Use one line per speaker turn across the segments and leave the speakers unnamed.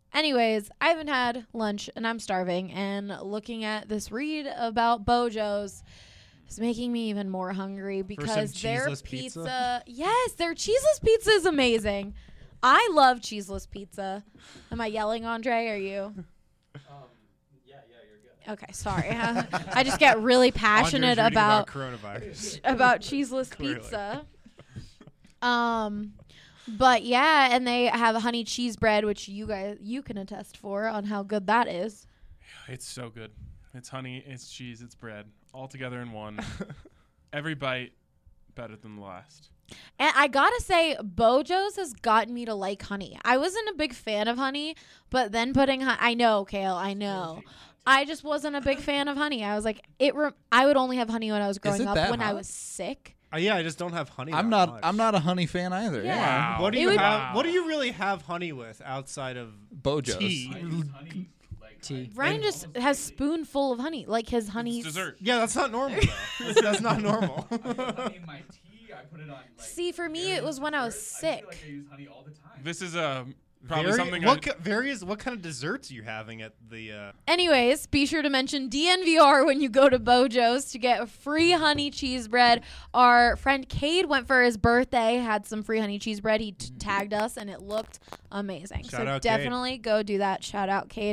Anyways, I haven't had lunch and I'm starving, and looking at this read about Bojo's is making me even more hungry because their pizza. Yes, their cheeseless pizza is amazing. I love cheeseless pizza. Am I yelling, Andre? Are you?
Yeah, you're good.
Okay, sorry. I just get really passionate about
coronavirus.
about cheeseless pizza. But yeah, and they have a honey cheese bread, which you can attest for on how good that is.
It's so good. It's honey, it's cheese, it's bread, all together in one. Every bite better than the last.
And I gotta say, Bojo's has gotten me to like honey. I wasn't a big fan of honey, but then putting I know, Kale, I know. I just wasn't a big fan of honey. I was like, I would only have honey when I was growing up when I was sick.
Yeah, I just don't have honey.
I'm not a honey fan either.
Yeah.
Wow.
What do you have? What do you really have honey with outside of
Bojo's?
tea?
Tea.
Ryan just has spoonful of honey, like his honey.
Dessert.
Yeah, that's not normal. Though. that's not normal.
I put honey in my tea. I put it on.
See, for me, it was when I was sick.
I feel like I use honey all the time.
This is probably something.
What kind of desserts are you having at the?
Anyways, be sure to mention DNVR when you go to Bojo's to get a free honey cheese bread. Our friend Cade went for his birthday, had some free honey cheese bread. He tagged us, and it looked amazing.
Shout out,
definitely go do that. Shout out, Cade.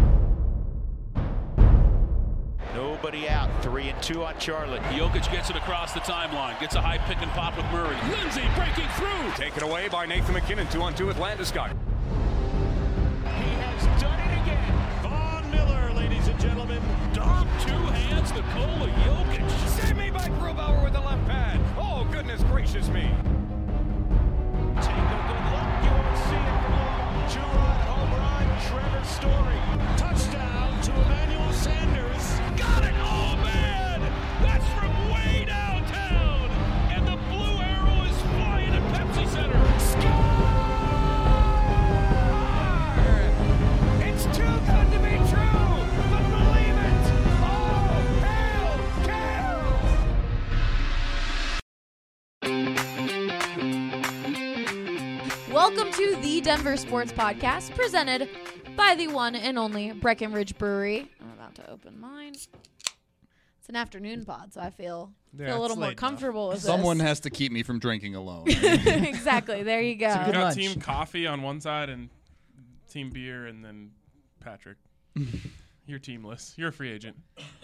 Nobody out. 3-2 on Charlotte.
Jokic gets it across the timeline. Gets a high pick and pop with Murray. Lindsay breaking through.
Taken away by Nathan McKinnon. 2-on-2 with Landeskog.
He has done it again. Von Miller, ladies and gentlemen. Dom, two hands, Nikola Jokic.
Save me by Grubauer with the left pad. Oh, goodness gracious me.
Take a good look. You won't see it for long. Two-run home run. Trevor Story. Touchdown to Emmanuel Sanders. Got it. Oh, man. That's from way downtown. And the blue arrow is flying at Pepsi Center.
It's too good to be true, but believe it. Oh, hell,
Welcome to the Denver Sports Podcast, presented by the one and only Breckenridge Brewery. I'm about to open mine. It's an afternoon pod, so I feel a little more comfortable with
Someone
this.
has to keep me from drinking alone.
Exactly. There you go.
Good
We've got
lunch.
team coffee on one side and team beer, and then Patrick. You're teamless. You're a free agent.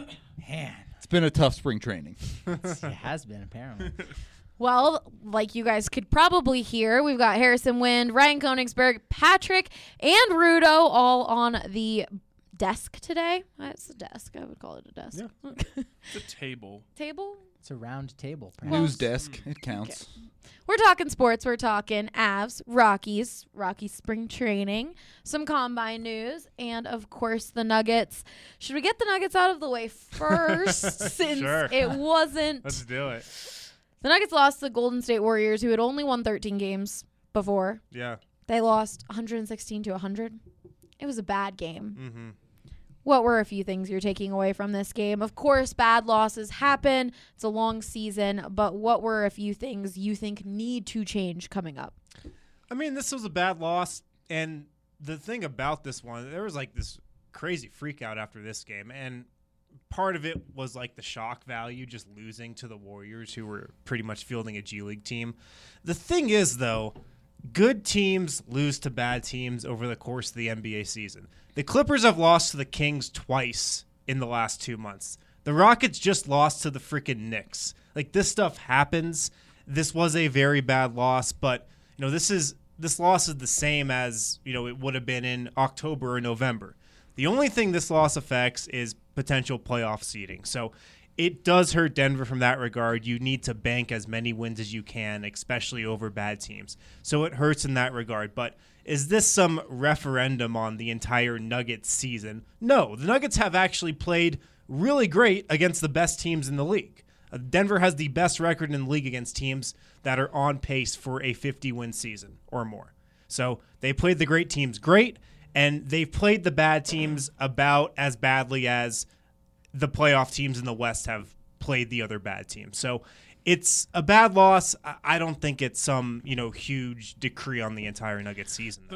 Man,
It's been a tough spring training.
it has been apparently.
Well, like you guys could probably hear, we've got Harrison Wind, Ryan Koenigsberg, Patrick, and Rudo all on the desk today. It's a desk. I would call it a desk.
Yeah.
It's a table.
Table?
It's a round table.
News desk. It counts.
We're talking sports. We're talking Avs, Rockies spring training, some combine news, and, of course, the Nuggets. Should we get the Nuggets out of the way first since
Sure.
it wasn't?
Let's do it.
The Nuggets lost to the Golden State Warriors, who had only won 13 games before.
Yeah.
They lost 116 to 100. It was a bad game.
Mm-hmm.
What were a few things you're taking away from this game? Of course, bad losses happen. It's a long season, but what were a few things you think need to change coming up?
I mean, this was a bad loss, and the thing about this one, there was like this crazy freak out after this game, and part of it was like the shock value, just losing to the Warriors, who were pretty much fielding a G League team. The thing is, though, good teams lose to bad teams over the course of the NBA season. The Clippers have lost to the Kings twice in the last 2 months. The Rockets just lost to the freaking Knicks. Like, this stuff happens. This was a very bad loss, but you know, this loss is the same as, you know, it would have been in October or November. The only thing this loss affects is potential playoff seeding. So it does hurt Denver from that regard. You need to bank as many wins as you can, especially over bad teams. So it hurts in that regard. But is this some referendum on the entire Nuggets season? No, the Nuggets have actually played really great against the best teams in the league. Denver has the best record in the league against teams that are on pace for a 50-win season or more. So they played the great teams great, and they've played the bad teams about as badly as the playoff teams in the West have played the other bad teams. So it's a bad loss. I don't think it's some, you know, huge decree on the entire Nuggets season, though.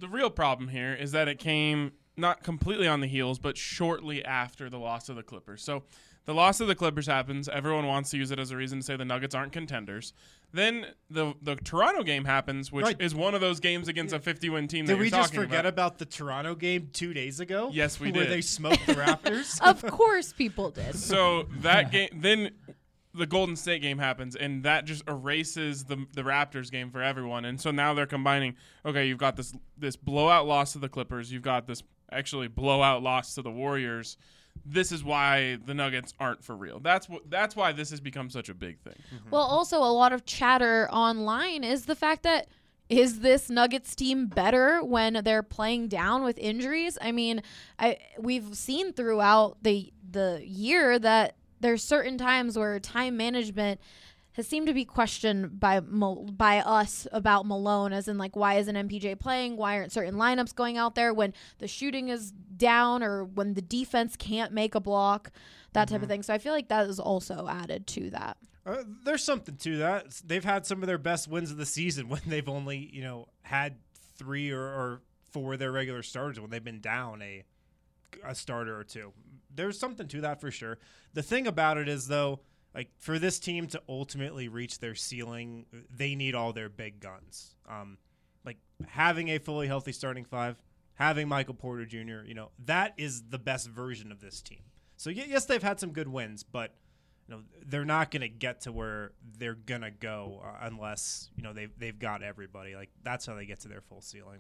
the real problem here is that it came not completely on the heels, but shortly after the loss of the Clippers. So the loss of the Clippers happens. Everyone wants to use it as a reason to say the Nuggets aren't contenders. Then the Toronto game happens, which is one of those games against a 50-win team.
Did we just forget about the Toronto game 2 days ago?
Yes, we did.
Where they smoked the Raptors?
Of course people did.
So that game, then the Golden State game happens, and that just erases the Raptors game for everyone. And so now they're combining, okay, you've got this blowout loss to the Clippers. You've got this actually blowout loss to the Warriors. This is why the Nuggets aren't for real. That's why this has become such a big thing.
Mm-hmm. Well, also a lot of chatter online is the fact that is this Nuggets team better when they're playing down with injuries? I mean, we've seen throughout the year that there's certain times where time management has seemed to be questioned by us about Malone, as in, like, why isn't MPJ playing? Why aren't certain lineups going out there when the shooting is down or when the defense can't make a block, that type of thing. So I feel like that is also added to that.
There's something to that. They've had some of their best wins of the season when they've only, had 3 or 4 of their regular starters when they've been down a starter or 2. There's something to that for sure. The thing about it is, though, like, for this team to ultimately reach their ceiling, they need all their big guns. Like, having a fully healthy starting 5, having Michael Porter Jr., that is the best version of this team. So, yes, they've had some good wins, but they're not going to get to where they're going to go unless, they've got everybody. Like, that's how they get to their full ceiling.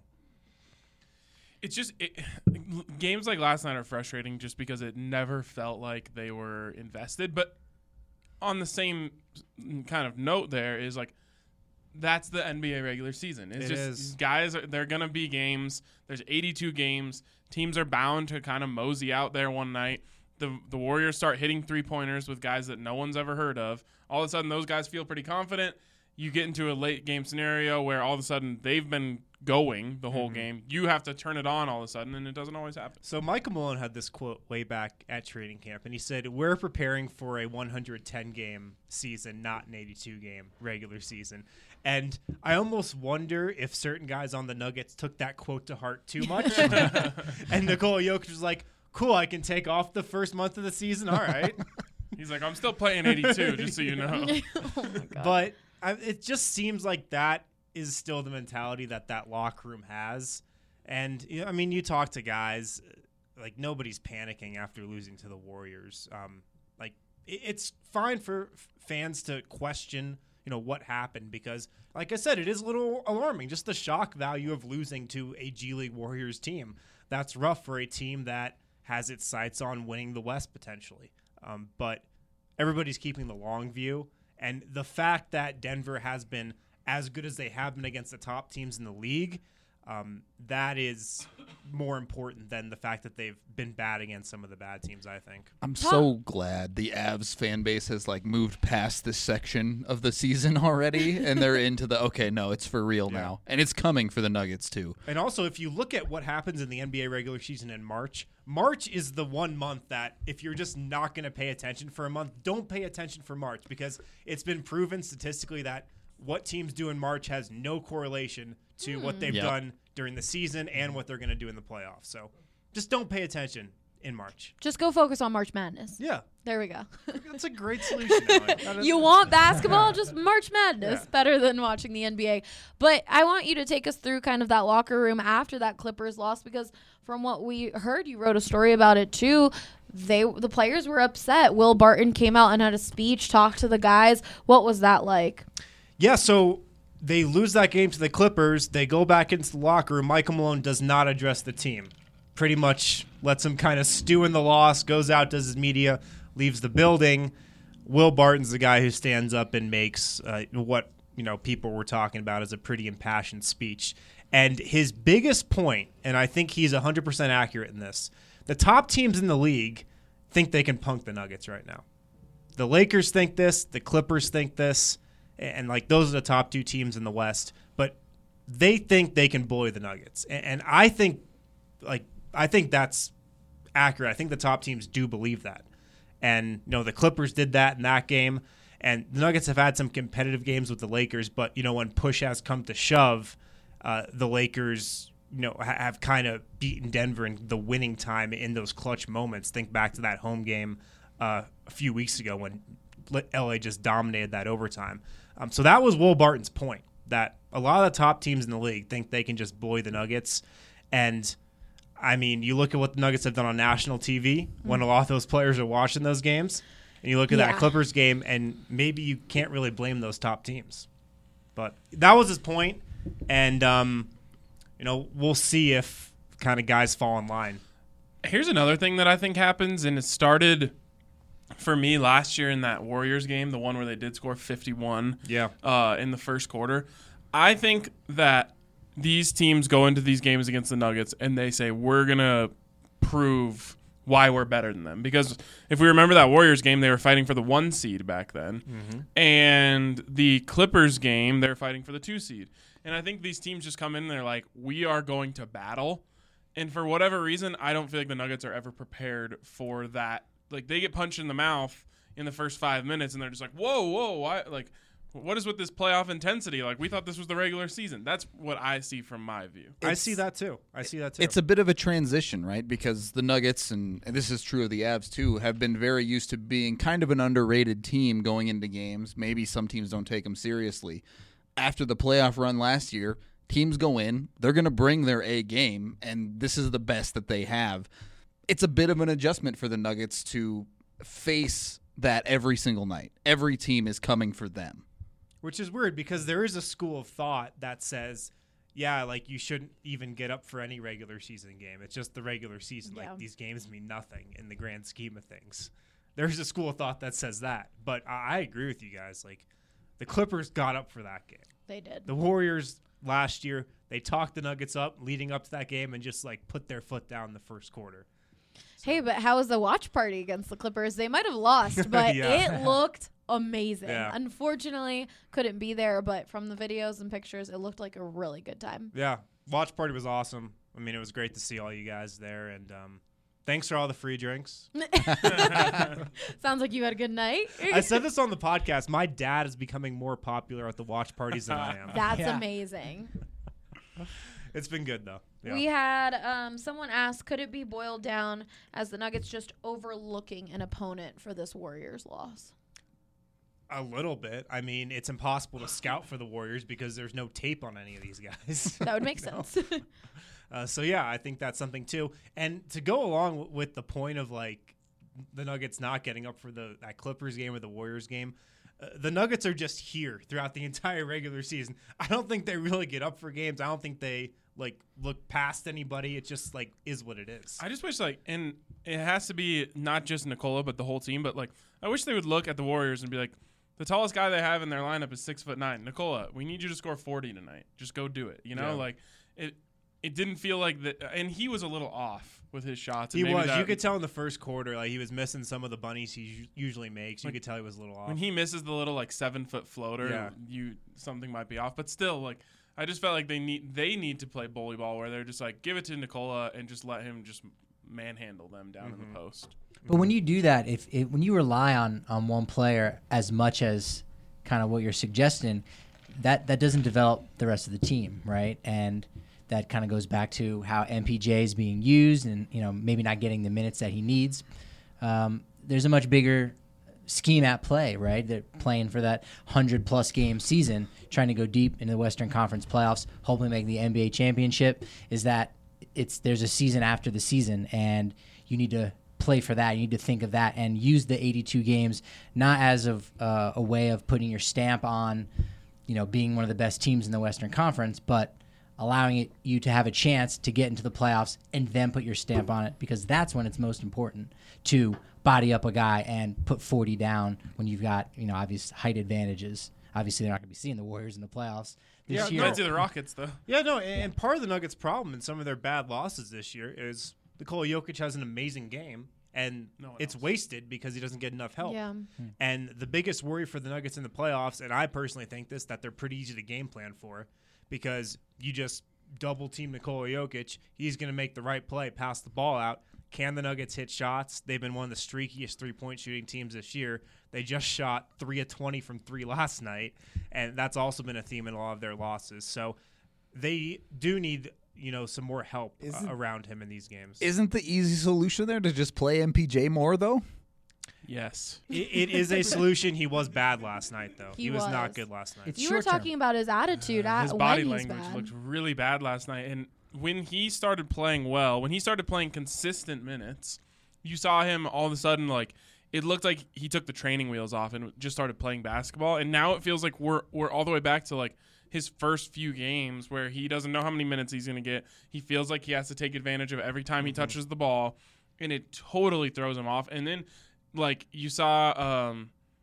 It's just games like last night are frustrating just because it never felt like they were invested. But on the same kind of note, there is, like, that's the NBA regular season. It's these guys they're gonna be games. There's 82 games. Teams are bound to kind of mosey out there one night. The Warriors start hitting 3-pointers with guys that no one's ever heard of. All of a sudden, those guys feel pretty confident. You get into a late game scenario where all of a sudden they've been going the whole game. You have to turn it on all of a sudden, and it doesn't always happen.
So Michael Malone had this quote way back at training camp, and he said, "We're preparing for a 110-game season, not an 82-game regular season." And I almost wonder if certain guys on the Nuggets took that quote to heart too much. And Nikola Jokic was like, "Cool, I can take off the first month of the season. All right."
He's like, "I'm still playing 82, just so you know."
Oh my God.
But it just seems like that is still the mentality that locker room has. And, I mean, you talk to guys, like, nobody's panicking after losing to the Warriors. It's fine for fans to question, what happened because, like I said, it is a little alarming. Just the shock value of losing to a G League Warriors team. That's rough for a team that has its sights on winning the West potentially. But everybody's keeping the long view. And the fact that Denver has been as good as they have been against the top teams in the league, that is more important than the fact that they've been bad against some of the bad teams, I think.
I'm so glad the Avs fan base has, like, moved past this section of the season already, and they're into the, okay, no, it's for real now. And it's coming for the Nuggets, too.
And also, if you look at what happens in the NBA regular season in March is the one month that if you're just not going to pay attention for a month, don't pay attention for March, because it's been proven statistically that what teams do in March has no correlation to what they've done during the season and what they're going to do in the playoffs. So just don't pay attention in March.
Just go focus on March Madness.
Yeah.
There we go.
That's a great solution, Ellen.
You want basketball? Just March Madness. Better than watching the NBA. But I want you to take us through kind of that locker room after that Clippers loss, because from what we heard, you wrote a story about it too. The players were upset. Will Barton came out and had a speech, talked to the guys. What was that like?
Yeah, so they lose that game to the Clippers. They go back into the locker room. Michael Malone does not address the team. Pretty much lets them kind of stew in the loss, goes out, does his media, leaves the building. Will Barton's the guy who stands up and makes what people were talking about as a pretty impassioned speech. And his biggest point, and I think he's 100% accurate in this, the top teams in the league think they can punk the Nuggets right now. The Lakers think this, the Clippers think this, and like those are the top 2 teams in the West, but they think they can bully the Nuggets. And I think that's accurate. I think the top teams do believe that. And the Clippers did that in that game, and the Nuggets have had some competitive games with the Lakers, but when push has come to shove, the Lakers have kind of beaten Denver in the winning time in those clutch moments. Think back to that home game a few weeks ago when LA just dominated that overtime. So that was Will Barton's point, that a lot of the top teams in the league think they can just bully the Nuggets. And, I mean, you look at what the Nuggets have done on national TV when a lot of those players are watching those games, and you look at that Clippers game, and maybe you can't really blame those top teams. But that was his point, and, we'll see if kind of guys fall in line.
Here's another thing that I think happens, and it started for me last year in that Warriors game, the one where they did score 51 in the first quarter. I think that these teams go into these games against the Nuggets and they say, we're going to prove why we're better than them. Because if we remember that Warriors game, they were fighting for the 1 seed back then. Mm-hmm. And the Clippers game, they're fighting for the 2 seed. And I think these teams just come in and they're like, we are going to battle. And for whatever reason, I don't feel like the Nuggets are ever prepared for that. Like, they get punched in the mouth in the first 5 minutes and they're just like, whoa, why? Like, what is with this playoff intensity? Like, we thought this was the regular season. That's what I see from my view.
I see that too.
It's a bit of a transition, right? Because the Nuggets, and this is true of the Avs too, have been very used to being kind of an underrated team going into games. Maybe some teams don't take them seriously. After the playoff run last year, teams go in, they're going to bring their A game, and this is the best that they have. It's a bit of an adjustment for the Nuggets to face that every single night. Every team is coming for them.
Which is weird because there is a school of thought that says, like you shouldn't even get up for any regular season game. It's just the regular season. Yeah. Like these games mean nothing in the grand scheme of things. There's a school of thought that says that. But I agree with you guys. Like the Clippers got up for that game.
They did.
The Warriors last year, they talked the Nuggets up leading up to that game and just like put their foot down in the first quarter.
Hey, but how was the watch party against the Clippers? They might have lost, but it looked amazing. Yeah. Unfortunately, couldn't be there, but from the videos and pictures, it looked like a really good time.
Yeah, watch party was awesome. I mean, it was great to see all you guys there, and thanks for all the free drinks.
Sounds like you had a good night.
I said this on the podcast. My dad is becoming more popular at the watch parties than I am.
That's amazing.
It's been good, though. Yeah.
We had someone ask, could it be boiled down as the Nuggets just overlooking an opponent for this Warriors loss?
A little bit. I mean, it's impossible to scout for the Warriors because there's no tape on any of these guys.
That would make sense.
I think that's something, too. And to go along with the point of, like, the Nuggets not getting up for that Clippers game or the Warriors game, the Nuggets are just here throughout the entire regular season. I don't think they really get up for games. I don't think they look past anybody. It just is what it is.
I just wish and it has to be not just Nikola but the whole team. But I wish they would look at the Warriors and be like, the tallest guy they have in their lineup is 6'9". Nikola, we need you to score 40 tonight. Just go do it. It didn't feel like that, and he was a little off with his shots.
He was. You could tell in the first quarter, he was missing some of the bunnies he usually makes. You could tell he was a little off.
When he misses the little 7-foot floater, something might be off. But still, I just felt like they need to play bully ball where they're just give it to Nikola and just let him just manhandle them down in the post.
But when you do that, when you rely on one player as much as kind of what you're suggesting, that doesn't develop the rest of the team, right? And that kind of goes back to how MPJ is being used and, maybe not getting the minutes that he needs. There's a much bigger scheme at play, right? They're playing for that 100-plus game season, trying to go deep into the Western Conference playoffs, hopefully make the NBA championship, is that there's a season after the season, and you need to play for that. You need to think of that and use the 82 games not as a way of putting your stamp on, being one of the best teams in the Western Conference, but allowing you to have a chance to get into the playoffs and then put your stamp on it, because that's when it's most important to body up a guy and put 40 down when you've got, obvious height advantages. Obviously, they're not going to be seeing the Warriors in the playoffs this year.
Might see the Rockets, though.
Yeah, no, and part of the Nuggets' problem in some of their bad losses this year is Nikola Jokic has an amazing game, and it's wasted because he doesn't get enough help.
Yeah.
And the biggest worry for the Nuggets in the playoffs, and I personally think that they're pretty easy to game plan for, because you just double team Nikola Jokic. He's going to make the right play, pass the ball out. Can the Nuggets hit shots? They've been one of the streakiest three-point shooting teams this year. They just shot 3 of 20 from 3 last night, and that's also been a theme in a lot of their losses. So they do need some more help around him in these games.
Isn't the easy solution there to just play MPJ more, though?
Yes.
It is a solution. He was bad last night, though. He was not good last night.
You were talking about his attitude.
His body language looked really bad last night. And when he started playing well, when he started playing consistent minutes, you saw him all of a sudden, like, it looked like he took the training wheels off and just started playing basketball. And now it feels like we're all the way back to, like, his first few games where he doesn't know how many minutes he's going to get. He feels like he has to take advantage of every time he touches the ball, and it totally throws him off. And then, like, you saw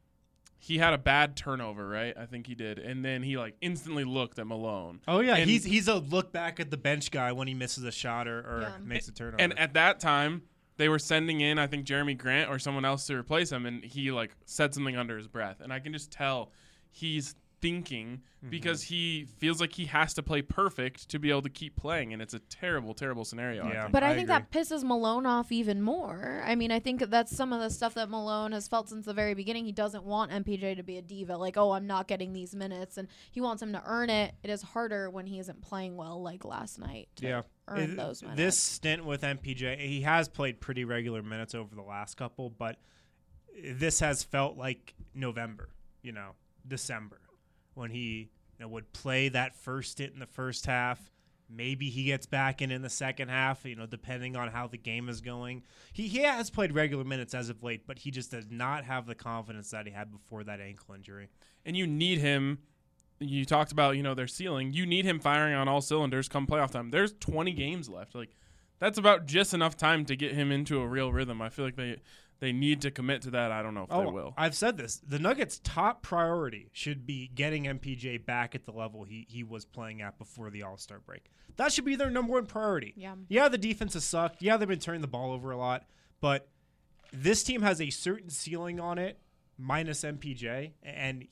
he had a bad turnover, right? I think he did. And then he, like, instantly looked at Malone.
Oh, yeah. And he's a look back at the bench guy when he misses a shot or makes a turnover.
And at that time, they were sending in, I think, Jeremy Grant or someone else to replace him, and he, like, said something under his breath. And I can just tell he's thinking because he feels like he has to play perfect to be able to keep playing, and it's a terrible, terrible scenario.
Yeah,
but I think that pisses Malone off even more. I mean, I think that's some of the stuff that Malone has felt since the very beginning. He doesn't want MPJ to be a diva, like, oh, I'm not getting these minutes, and he wants him to earn it. It is harder when he isn't playing well, like last night, to earn those minutes.
This stint with MPJ, he has played pretty regular minutes over the last couple, but this has felt like November, December, when he would play that first stint in the first half. Maybe he gets back in the second half, depending on how the game is going. He has played regular minutes as of late, but he just does not have the confidence that he had before that ankle injury.
And you need him. You talked about, their ceiling. You need him firing on all cylinders come playoff time. There's 20 games left. Like, that's about just enough time to get him into a real rhythm. I feel like they need to commit to that. I don't know if they will.
I've said this. The Nuggets' top priority should be getting MPJ back at the level he was playing at before the All-Star break. That should be their number one priority. Yeah, the defense has sucked. Yeah, they've been turning the ball over a lot. But this team has a certain ceiling on it, minus MPJ. And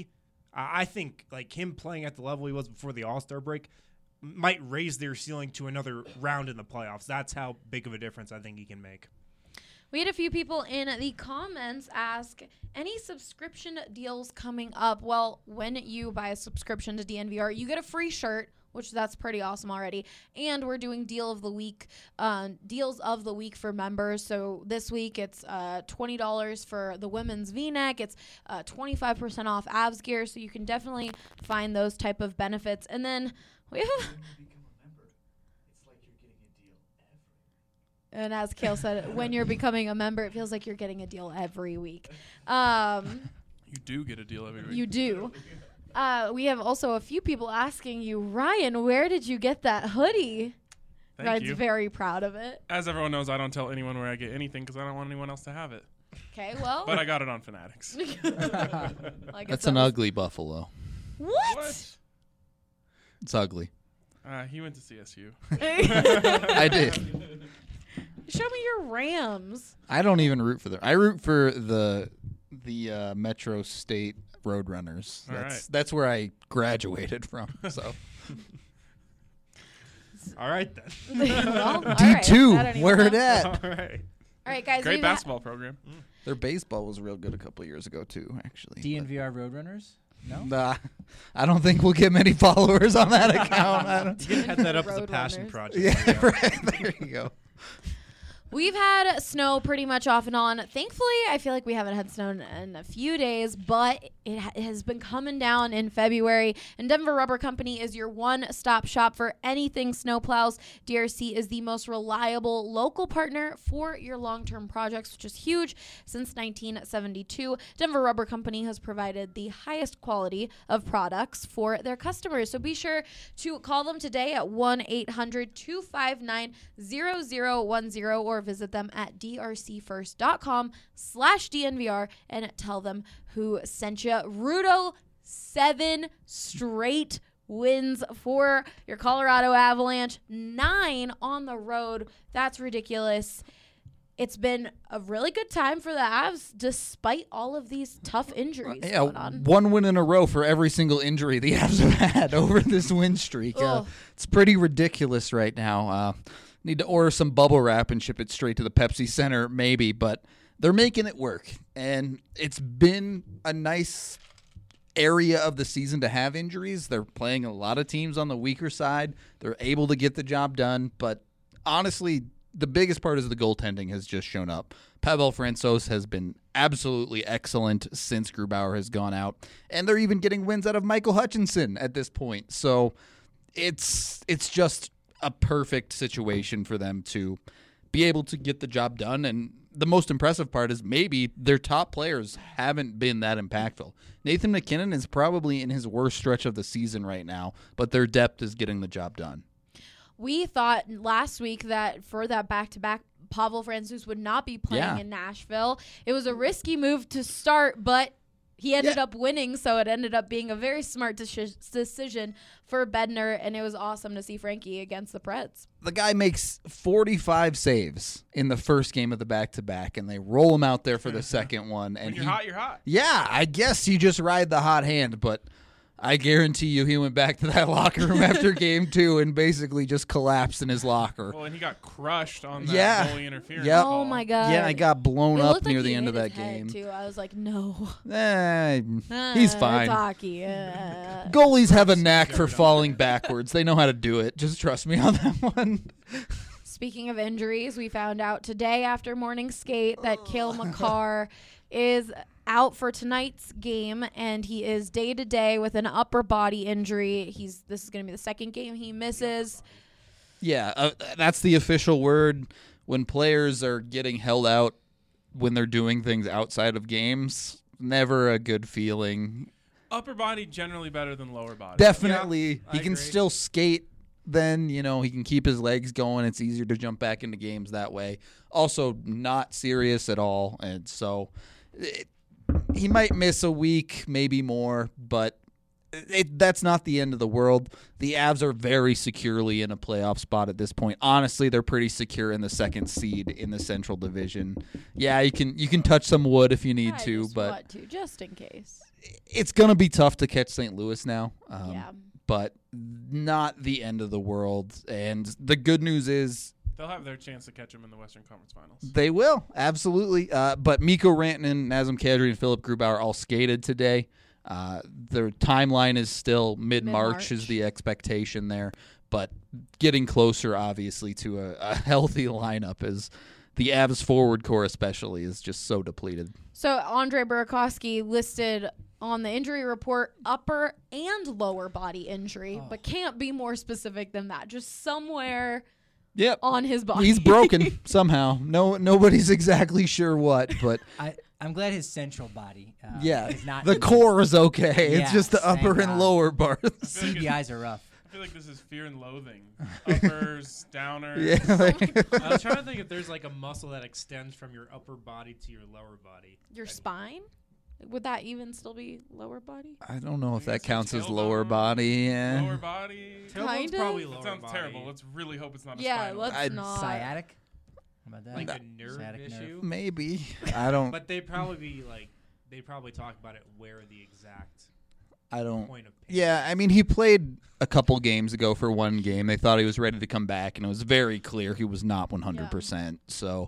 I think, like, him playing at the level he was before the All-Star break might raise their ceiling to another round in the playoffs. That's how big of a difference I think he can make.
We had a few people in the comments ask, any subscription deals coming up? Well, when you buy a subscription to DNVR, you get a free shirt, which that's pretty awesome already. And we're doing deals of the week for members. So this week it's $20 for the women's V-neck. It's 25% off Avs gear. So you can definitely find those type of benefits. And then we have... And as Kale said, when you're becoming a member, it feels like you're getting a deal every week.
You do get a deal every week.
You do. We have also a few people asking you, Ryan, where did you get that hoodie?
Thank you.
Ryan's very proud of it.
As everyone knows, I don't tell anyone where I get anything because I don't want anyone else to have it.
Okay, well.
But I got it on Fanatics.
That's an ugly buffalo.
What?
It's ugly.
He went to CSU.
I did.
Show me your Rams.
I don't even root for them. I root for the Metro State Roadrunners. That's where I graduated from. So.
All right then.
Well,
D2.
Right.
Where it at?
All right.
All right, guys.
Great basketball program.
Their baseball was real good a couple years ago too, actually.
DNVR Roadrunners. No?
Nah, I don't think we'll get many followers on that account.
You can head that up as a passion project.
Yeah, right. There you go.
We've had snow pretty much off and on. Thankfully, I feel like we haven't had snow in a few days, but it has been coming down in February. And Denver Rubber Company is your one-stop shop for anything snowplows. DRC is the most reliable local partner for your long-term projects, which is huge. Since 1972, Denver Rubber Company has provided the highest quality of products for their customers. So be sure to call them today at 1-800-259-0010 or visit them at drcfirst.com/DNVR and tell them who sent you. Rudo, 7 straight wins for your Colorado Avalanche, 9 on the road. That's ridiculous. It's been a really good time for the Avs despite all of these tough injuries going on.
1 win in a row for every single injury the Avs have had over this win streak. It's pretty ridiculous right now. Need to order some bubble wrap and ship it straight to the Pepsi Center, maybe, but they're making it work. And it's been a nice area of the season to have injuries. They're playing a lot of teams on the weaker side. They're able to get the job done, but honestly, the biggest part is the goaltending has just shown up. Pavel Francouz has been absolutely excellent since Grubauer has gone out, and they're even getting wins out of Michael Hutchinson at this point. So it's just a perfect situation for them to be able to get the job done. And the most impressive part is maybe their top players haven't been that impactful. Nathan MacKinnon is probably in his worst stretch of the season right now, but their depth is getting the job done.
We thought last week that for that back-to-back, Pavel Francouz would not be playing in Nashville. It was a risky move to start, but he ended up winning, so it ended up being a very smart decision for Bednar, and it was awesome to see Frankie against the Preds.
The guy makes 45 saves in the first game of the back-to-back, and they roll him out there for the second one. And
when you're hot, you're hot.
Yeah, I guess you just ride the hot hand, but I guarantee you he went back to that locker room after game 2 and basically just collapsed in his locker.
Well, and he got crushed on that goalie interference.
Yep.
Oh, my God.
Yeah, I got blown
It
up
looked
near
like
the
he
end
hit
of
his
that
head,
game.
too. I was like, no.
He's fine.
It's hockey.
Goalies have a knack for falling backwards. They know how to do it. Just trust me on that one.
Speaking of injuries, we found out today after morning skate that Cale Makar is out for tonight's game, and he is day-to-day with an upper body injury. This is going to be the second game he misses.
Yeah, that's the official word. When players are getting held out when they're doing things outside of games, never a good feeling.
Upper body generally better than lower body.
Definitely.
Yeah,
he can still skate. Then, he can keep his legs going. It's easier to jump back into games that way. Also, not serious at all. And so he might miss a week, maybe more, but that's not the end of the world. The Avs are very securely in a playoff spot at this point. Honestly, they're pretty secure in the second seed in the Central Division. Yeah, you can touch some wood if you need to, but
just in case.
It's going to be tough to catch St. Louis now. But not the end of the world. And the good news is
they'll have their chance to catch him in the Western Conference Finals.
They will, absolutely. But Mikko Rantanen, Nazem Kadri, and Philip Grubauer all skated today. Their timeline is still mid-March is the expectation there. But getting closer, obviously, to a healthy lineup is the Avs forward core especially is just so depleted.
So Andre Burakovsky listed on the injury report upper and lower body injury, but can't be more specific than that. Just somewhere on his body.
He's broken somehow. Nobody's exactly sure what, but
I'm glad his central body is not.
The core is okay.
Yeah,
it's just the upper and lower parts.
CBIs are rough.
I feel like this is fear and loathing. Uppers, downers.
Yeah.
I was trying to think if there's like a muscle that extends from your upper body to your lower body.
Your spine? Would that even still be lower body?
I don't know if that counts as
tailbone,
lower body. Yeah.
Lower body.
Tailbone's probably lower
That sounds
body.
terrible. Let's really hope it's not a
Yeah,
spinal.
let's not.
Sciatic? How about that?
Like a nerve
Sciatic
issue.
nerve.
Maybe. I don't.
But they probably talk about it where the exact
I don't.
point of pain.
Yeah, I mean, he played a couple games ago for one game. They thought he was ready to come back, and it was very clear he was not 100%. So,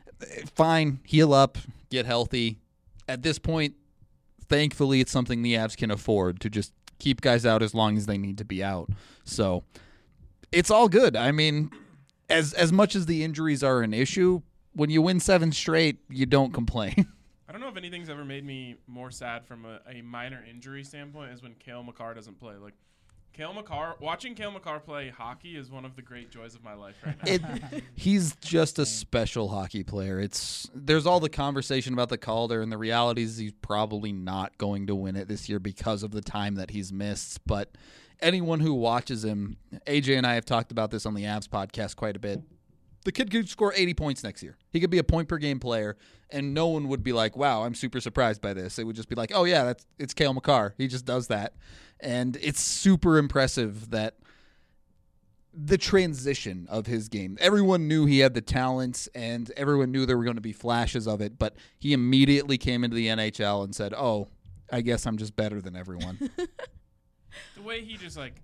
fine, heal up, get healthy. At this point, thankfully, it's something the Avs can afford to just keep guys out as long as they need to be out. So, it's all good. I mean, as much as the injuries are an issue, when you win 7 straight, you don't complain.
I don't know if anything's ever made me more sad from a minor injury standpoint is when Cale Makar doesn't play. Like, watching Cale Makar play hockey is one of the great joys of my life right now.
He's just a special hockey player. There's all the conversation about the Calder, and the reality is he's probably not going to win it this year because of the time that he's missed. But anyone who watches him, AJ and I have talked about this on the Avs podcast quite a bit. The kid could score 80 points next year. He could be a point-per-game player, and no one would be like, wow, I'm super surprised by this. It would just be like, oh, yeah, it's Cale Makar. He just does that. And it's super impressive that the transition of his game. Everyone knew he had the talents, and everyone knew there were going to be flashes of it, but he immediately came into the NHL and said, oh, I guess I'm just better than everyone.
The way he just, like,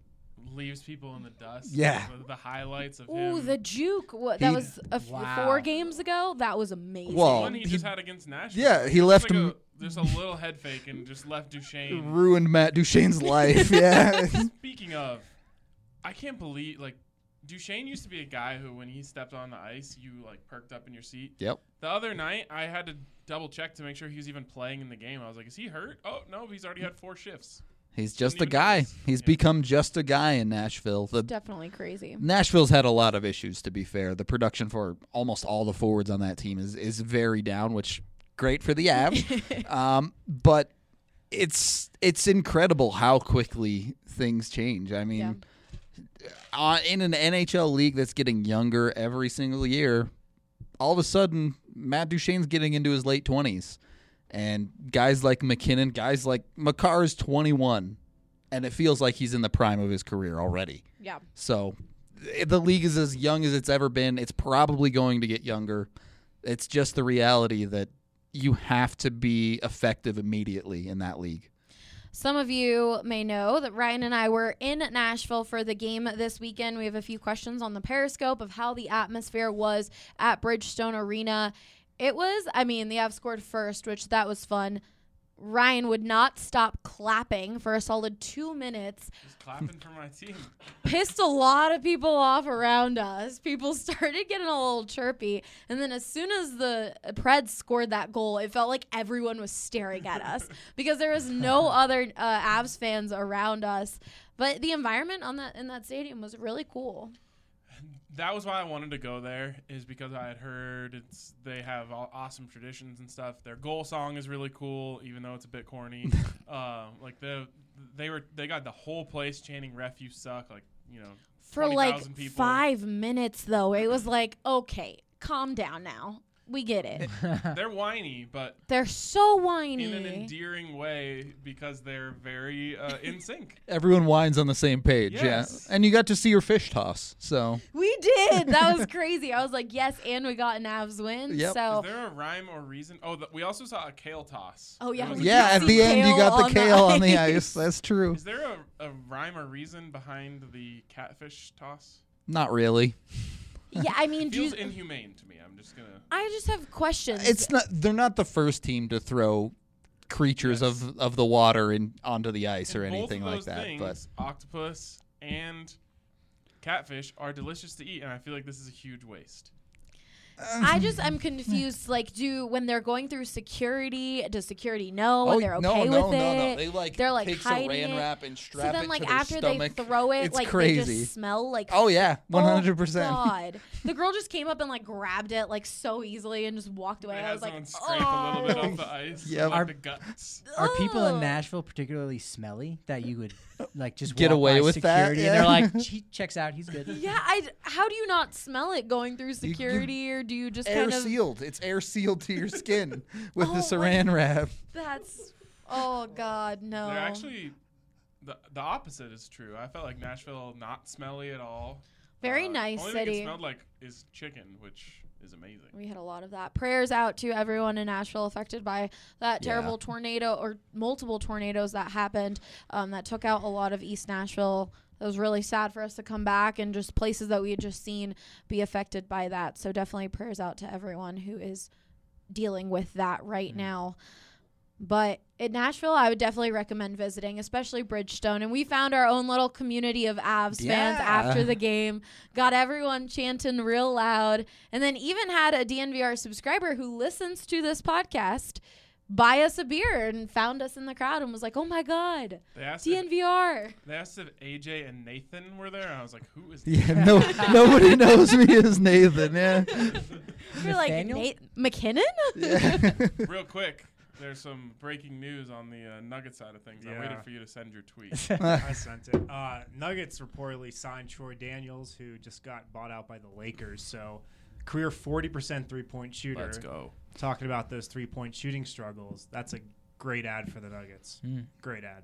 leaves people in the dust.
Yeah.
The highlights of
Ooh,
him.
the juke. That was 4 games ago. That was amazing.
Well,
One he just had against Nashville.
Yeah, he
Just
left
like
him.
Just a little head fake and just left Duchesne.
Ruined Matt Duchene's life. Yeah.
Speaking of, I can't believe, like, Duchesne used to be a guy who, when he stepped on the ice, you, like, perked up in your seat.
Yep.
The other night, I had to double check to make sure he was even playing in the game. I was like, is he hurt? Oh, no, he's already had 4 shifts.
He's just a
Didn't even
guy.
notice.
He's
Yeah.
become just a guy in Nashville.
Definitely crazy.
Nashville's had a lot of issues, to be fair. The production for almost all the forwards on that team is very down, which great for the Avs. But it's incredible how quickly things change. I mean, in an NHL league that's getting younger every single year, all of a sudden, Matt Duchene's getting into his late 20s. And guys like McKinnon, guys like Makar is 21, and it feels like he's in the prime of his career already.
Yeah.
So the league is as young as it's ever been. It's probably going to get younger. It's just the reality that you have to be effective immediately in that league.
Some of you may know that Ryan and I were in Nashville for the game this weekend. We have a few questions on the Periscope of how the atmosphere was at Bridgestone Arena. It was, the Avs scored first, which that was fun. Ryan would not stop clapping for a solid 2 minutes.
Just clapping for my team.
Pissed a lot of people off around us. People started getting a little chirpy. And then as soon as the Preds scored that goal, it felt like everyone was staring at us because there was no other Avs fans around us. But the environment in that stadium was really cool.
That was why I wanted to go there, is because I had heard they have awesome traditions and stuff. Their goal song is really cool, even though it's a bit corny. They got the whole place chanting "Ref, you suck!"
For
20,000 people.
5 minutes though. It was like, okay, calm down now. We get it.
They're whiny, but
They're so whiny.
in an endearing way because they're very in sync.
Everyone whines on the same page,
Yes.
yeah. And you got to see your fish toss, so.
We did. That was crazy. I was like, yes, and we got an Avs win.
Yep.
So
Is there a rhyme or reason? Oh, we also saw a kale toss.
Oh, yeah.
There was
We
a-
Yeah, at
see
the end you
kale
got
on
the
the
kale on the
ice.
ice. That's true.
Is there a rhyme or reason behind the catfish toss?
Not really.
yeah,
It feels inhumane to me. I'm just gonna.
I just have questions.
They're not the first team to throw creatures
Yes.
of the water onto the ice or
And
anything
both
like
of
that.
those
But
things, octopus and catfish are delicious to eat, and I feel like this is a huge waste.
I'm confused. Like, when they're going through security, does security know when they're
no,
okay
no,
with
no,
it?
no. They like
They're like
take
hiding
saran
it.
wrap and
So
strap
then,
it
like
to their
after
stomach.
they throw it,
It's
like
crazy.
they just smell like.
Oh yeah, 100%.
Oh, God. The girl just came up and like grabbed it like so easily and just walked away.
They
I
had
was like,
someone scrape a little bit
oh.
off the ice.
Yep.
Like the guts.
Are people in
Ugh.
Nashville particularly smelly that you would like just
Get
walk
away
by
with that?
security and
Yeah.
they're like, he checks out, he's good.
Yeah, how do you not smell it going through security, or do you just
Air
kind of?
sealed. It's air sealed to your skin with the
Oh,
saran wrap.
That's. Oh God, no.
They're actually the opposite is true. I felt like Nashville not smelly at all.
Very nice
only thing
city.
it smelled like is chicken, which is amazing.
We had a lot of that. Prayers out to everyone in Nashville affected by that terrible tornado or multiple tornadoes that happened that took out a lot of East Nashville. It was really sad for us to come back and just places that we had just seen be affected by that. So definitely prayers out to everyone who is dealing with that right now. But in Nashville, I would definitely recommend visiting, especially Bridgestone. And we found our own little community of Avs fans
Yeah.
after the game. Got everyone chanting real loud. And then even had a DNVR subscriber who listens to this podcast buy us a beer and found us in the crowd and was like, oh, my God,
They asked
DNVR.
if AJ and Nathan were there. And I was like, who is
Yeah, nobody knows me as Nathan. Yeah.
You're like,
Nathaniel?
McKinnon?
Yeah.
Real quick, there's some breaking news on the Nugget side of things. I
Yeah.
waited for you to send your tweet.
I sent it. Nuggets reportedly signed Troy Daniels, who just got bought out by the Lakers. So, career 40% three-point shooter.
Let's go.
Talking about those three-point shooting struggles. That's a great ad for the Nuggets. Great ad.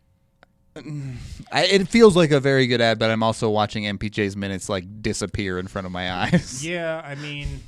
It feels like a very good ad, but I'm also watching MPJ's minutes like disappear in front of my eyes.
Yeah, I mean,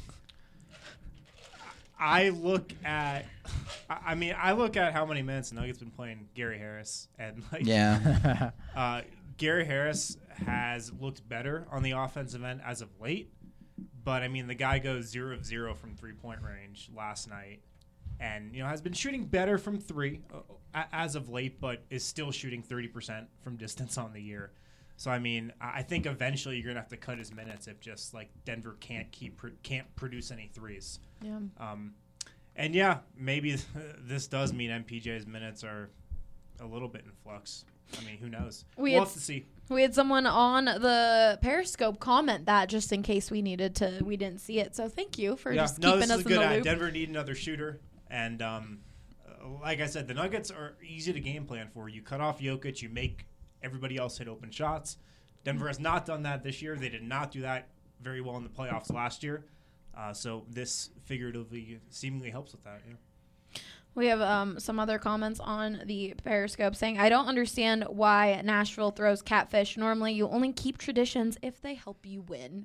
I look at how many minutes the Nuggets been playing Gary Harris, and like,
Yeah.
Gary Harris has looked better on the offensive end as of late. But, I mean, the guy goes 0 of 0 from three-point range last night. And, has been shooting better from three as of late, but is still shooting 30% from distance on the year. So, I mean, I think eventually you're going to have to cut his minutes if just, Denver can't produce any threes.
Yeah.
And, yeah, maybe this does mean MPJ's minutes are a little bit in flux. I mean, who knows? We'll have to see.
We had someone on the Periscope comment that just in case we didn't see it. So thank you for just keeping us in the loop.
Denver need another shooter. And like I said, the Nuggets are easy to game plan for. You cut off Jokic, you make everybody else hit open shots. Denver has not done that this year. They did not do that very well in the playoffs last year. So this figuratively seemingly helps with that. Yeah.
We have some other comments on the Periscope saying, I don't understand why Nashville throws catfish. Normally, you only keep traditions if they help you win.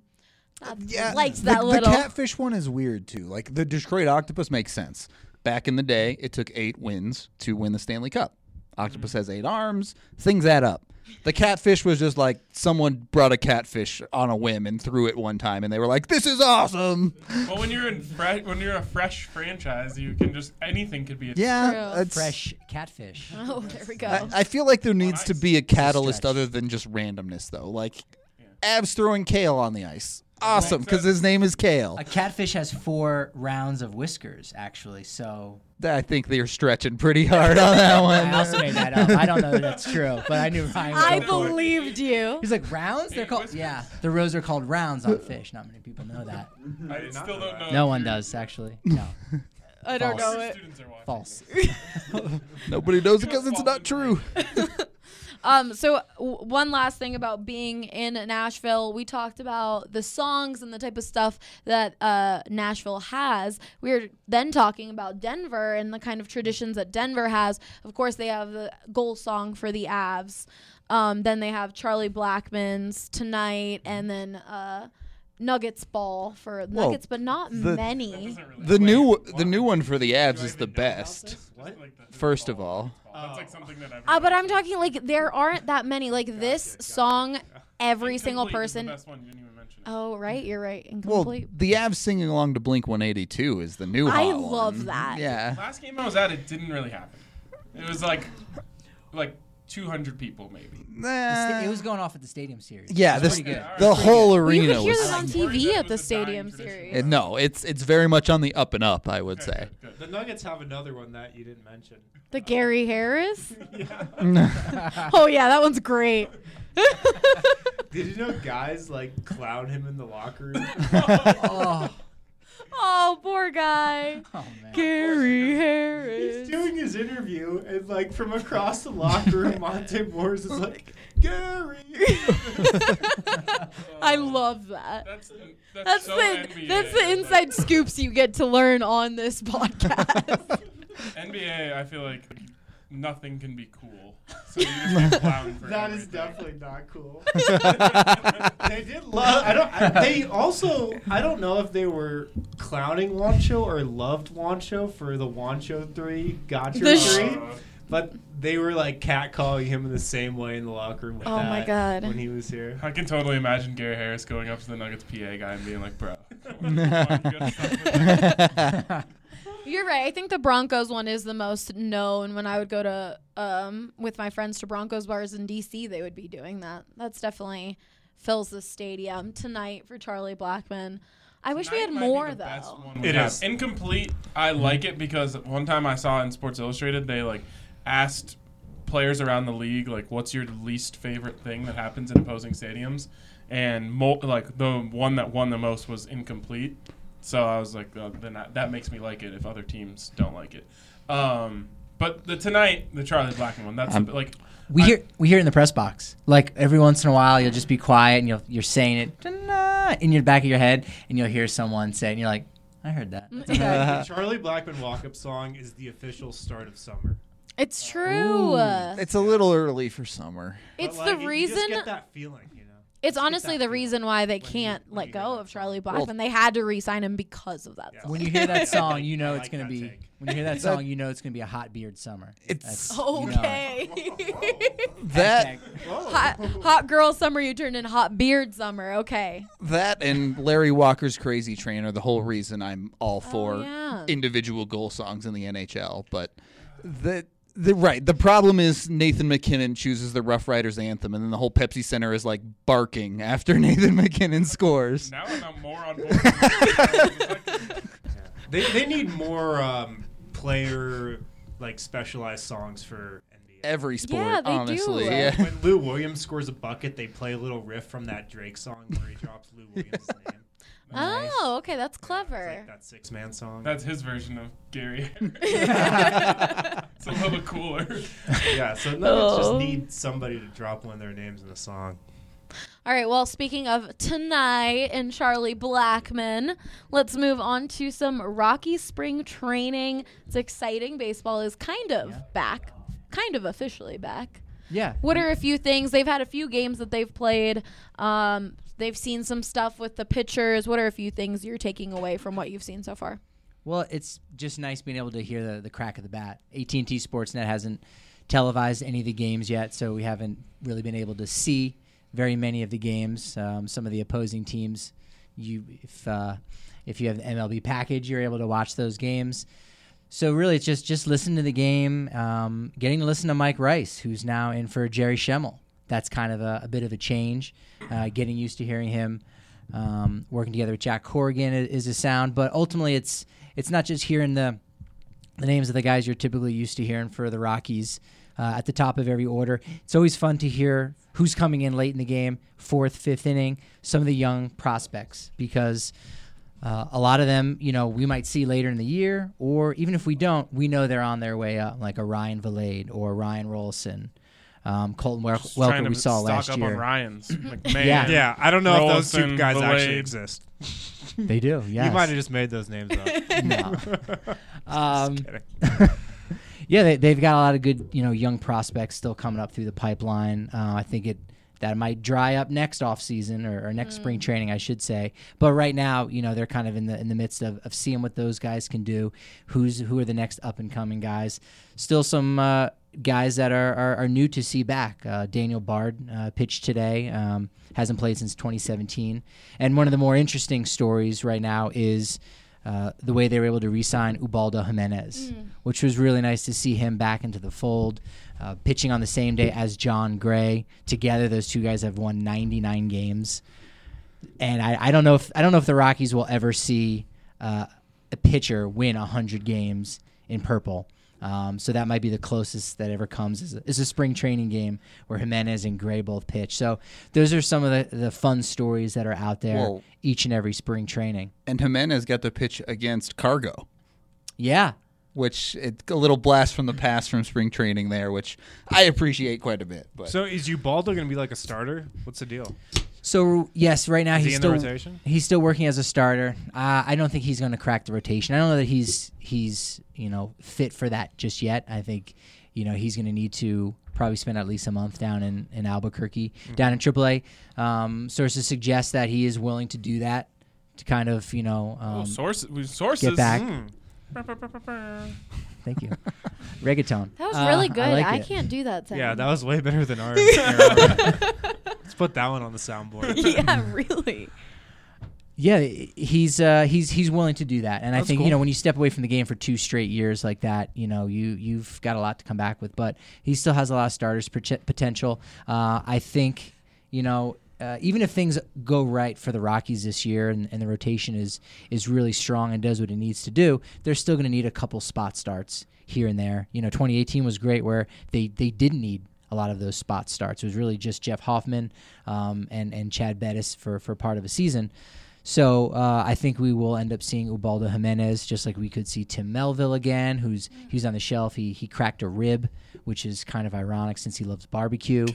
The catfish one is weird, too. Like, the Detroit Octopus makes sense. Back in the day, it took 8 wins to win the Stanley Cup. Octopus has 8 arms. Things add up. The catfish was just like someone brought a catfish on a whim and threw it one time, and they were like, "This is awesome."
Well, when you're a fresh franchise, you can just anything could be
a fresh catfish.
Oh, there we go.
I feel like there needs to be a catalyst other than just randomness, though. Like Avs throwing Kale on the ice. Awesome, because his name is Kale.
A catfish has 4 rounds of whiskers, actually, so...
I think they're stretching pretty hard on that one.
I also made that up. I don't know that that's true, but I knew Ryan would
I believed you.
He's like, rounds? They're called... Yeah, the rows are called rounds on fish. Not many people know that.
I still don't know.
No one does, actually. No.
I don't know it.
False.
Nobody knows it because it's not true.
So one last thing about being in Nashville. We talked about the songs and the type of stuff that Nashville has. We were then talking about Denver and the kind of traditions that Denver has. Of course, they have the goal song for the Avs. Then they have Charlie Blackmon's Tonight, and then Nuggets ball for Nuggets, but not many.
The new one for the Avs is the best. First of all.
That's like something that
but I'm talking like there aren't that many. Like this song, every single person.
The best one. You didn't even mention it.
Oh, right, you're right. Incomplete.
Well, the Avs singing along to Blink 182 is the new hot one.
I love that.
Yeah.
Last game I was at, it didn't really happen. It was like 200 people maybe.
It was going off at the Stadium Series.
Yeah,
pretty good.
The whole arena
was. You could hear
was.
this on TV at the Stadium Series.
No, it's very much on the up and up, I would say.
Good. The Nuggets have another one that you didn't mention.
The Gary Harris?
Yeah.
Oh, yeah, that one's great.
Did you know guys clown him in the locker room?
Oh, poor guy.
Oh, man.
Gary Harris.
He's doing his interview, and from across the locker room, Monte Morris is like, Gary.
I love that.
That's so NBA.
That's the inside scoops you get to learn on this podcast.
NBA, I feel like nothing can be cool. So you just get clowned for
That
everything.
is definitely not cool. They did love. I don't know if they were clowning Juancho or loved Juancho for the Juancho 3 gotcha 3, but they were catcalling him in the same way in the locker room. With
Oh my God.
When he was here,
I can totally imagine Gary Harris going up to the Nuggets PA guy and being like, "Bro."
You're right. I think the Broncos one is the most known. When I would go to with my friends to Broncos bars in DC, they would be doing that. That's definitely fills the stadium. Tonight for Charlie Blackmon. I wish we had more though.
It is
incomplete. I like it because one time I saw in Sports Illustrated they asked players around the league what's your least favorite thing that happens in opposing stadiums, and the one that won the most was incomplete. So I was like, then that makes me like it if other teams don't like it. But the Charlie Blackmon one, that's
we hear it in the press box. Every once in a while, you'll just be quiet and you're saying it in your back of your head, and you'll hear someone say it, and you're like, I heard that.
The Charlie Blackmon walk-up song is the official start of summer.
It's true.
It's a little early for summer.
It's the reason.
You just get that feeling,
It's honestly the reason why they can't let go of Charlie Blackmon. They had to re-sign him because of that song.
When you hear that song, you know it's going to be. When you hear that song, you know it's going to be a hot beard summer.
It's
okay.
That
hot girl summer, you turned in hot beard summer. Okay.
That and Larry Walker's Crazy Train are the whole reason I'm all for
yeah.
individual goal songs in the NHL. But the problem is Nathan MacKinnon chooses the Rough Riders anthem, and then the whole Pepsi Center is like barking after Nathan MacKinnon scores.
Now I'm more on board.
They need more player like specialized songs for NBA.
Every sport,
Yeah, they
honestly.
do.
Yeah.
When Lou Williams scores a bucket, they play a little riff from that Drake song where he drops Lou Williams' name.
Oh, okay, that's clever.
It's like that 6-man song.
That's his version of Gary. It's a little cooler.
Yeah, so Nuggets just need somebody to drop one of their names in the song.
All right, well, speaking of tonight and Charlie Blackmon, let's move on to some Rocky spring training. It's exciting. Baseball is kind of back, kind of officially back.
Yeah.
What are a few things? They've had a few games that they've played. They've seen some stuff with the pitchers. What are a few things you're taking away from what you've seen so far?
Well, it's just nice being able to hear the crack of the bat. AT&T Sportsnet hasn't televised any of the games yet, so we haven't really been able to see very many of the games. Some of the opposing teams, if you have the MLB package, you're able to watch those games. So really, it's just listen to the game, getting to listen to Mike Rice, who's now in for Jerry Schemmel. That's kind of a bit of a change. Getting used to hearing him working together with Jack Corrigan is a sound, but ultimately it's not just hearing the names of the guys you're typically used to hearing for the Rockies at the top of every order. It's always fun to hear who's coming in late in the game, 4th, 5th inning, some of the young prospects, because a lot of them, we might see later in the year, or even if we don't, we know they're on their way up, like a Ryan Valade or Ryan Rolson. Colton Welker we saw last year.
Stock up on Ryan's. McMahon,
Yeah, I don't know if those two
Rolson,
guys
Valade.
actually exist.
They do, yes.
You might have just made those names up.
No.
Just kidding.
Yeah, they've got a lot of good, young prospects still coming up through the pipeline. I think that might dry up next offseason or next spring training, I should say. But right now, they're kind of in the midst of seeing what those guys can do. Who are the next up and coming guys? Still some guys that are new to see back. Daniel Bard pitched today. Hasn't played since 2017. And one of the more interesting stories right now is the way they were able to re-sign Ubaldo Jimenez, which was really nice to see him back into the fold, pitching on the same day as John Gray. Together, those two guys have won 99 games, and I don't know if the Rockies will ever see a pitcher win 100 games in purple. So that might be the closest that ever comes is a spring training game where Jimenez and Gray both pitch. So those are some of the fun stories that are out there each and every spring training.
And Jimenez got to pitch against Cargo.
Yeah.
Which it's a little blast from the past from spring training there, which I appreciate quite a bit. But
So is Ubaldo going to be like a starter? What's the deal?
So yes, right now
Is
he's
he in
still
the rotation?
He's still working as a starter. I don't think he's going to crack the rotation. I don't know that he's fit for that just yet. I think he's going to need to probably spend at least a month down in Albuquerque, down in AAA. Sources suggest that he is willing to do that to kind of
sources
get back. Thank you. Reggaeton.
That was really good. I
it.
can't do that sound.
Yeah, that was way better than ours. Let's put that one on the soundboard.
Yeah, really.
Yeah, he's willing to do that, and
That's
I think
cool.
when you step away from the game for 2 straight years like that, you've got a lot to come back with. But he still has a lot of starters potential. I think even if things go right for the Rockies this year and the rotation is really strong and does what it needs to do, they're still going to need a couple spot starts here and there. 2018 was great where they didn't need a lot of those spot starts. It was really just Jeff Hoffman and Chad Bettis for part of a season. So I think we will end up seeing Ubaldo Jimenez, just like we could see Tim Melville again, who's on the shelf. He cracked a rib, which is kind of ironic since he loves barbecue.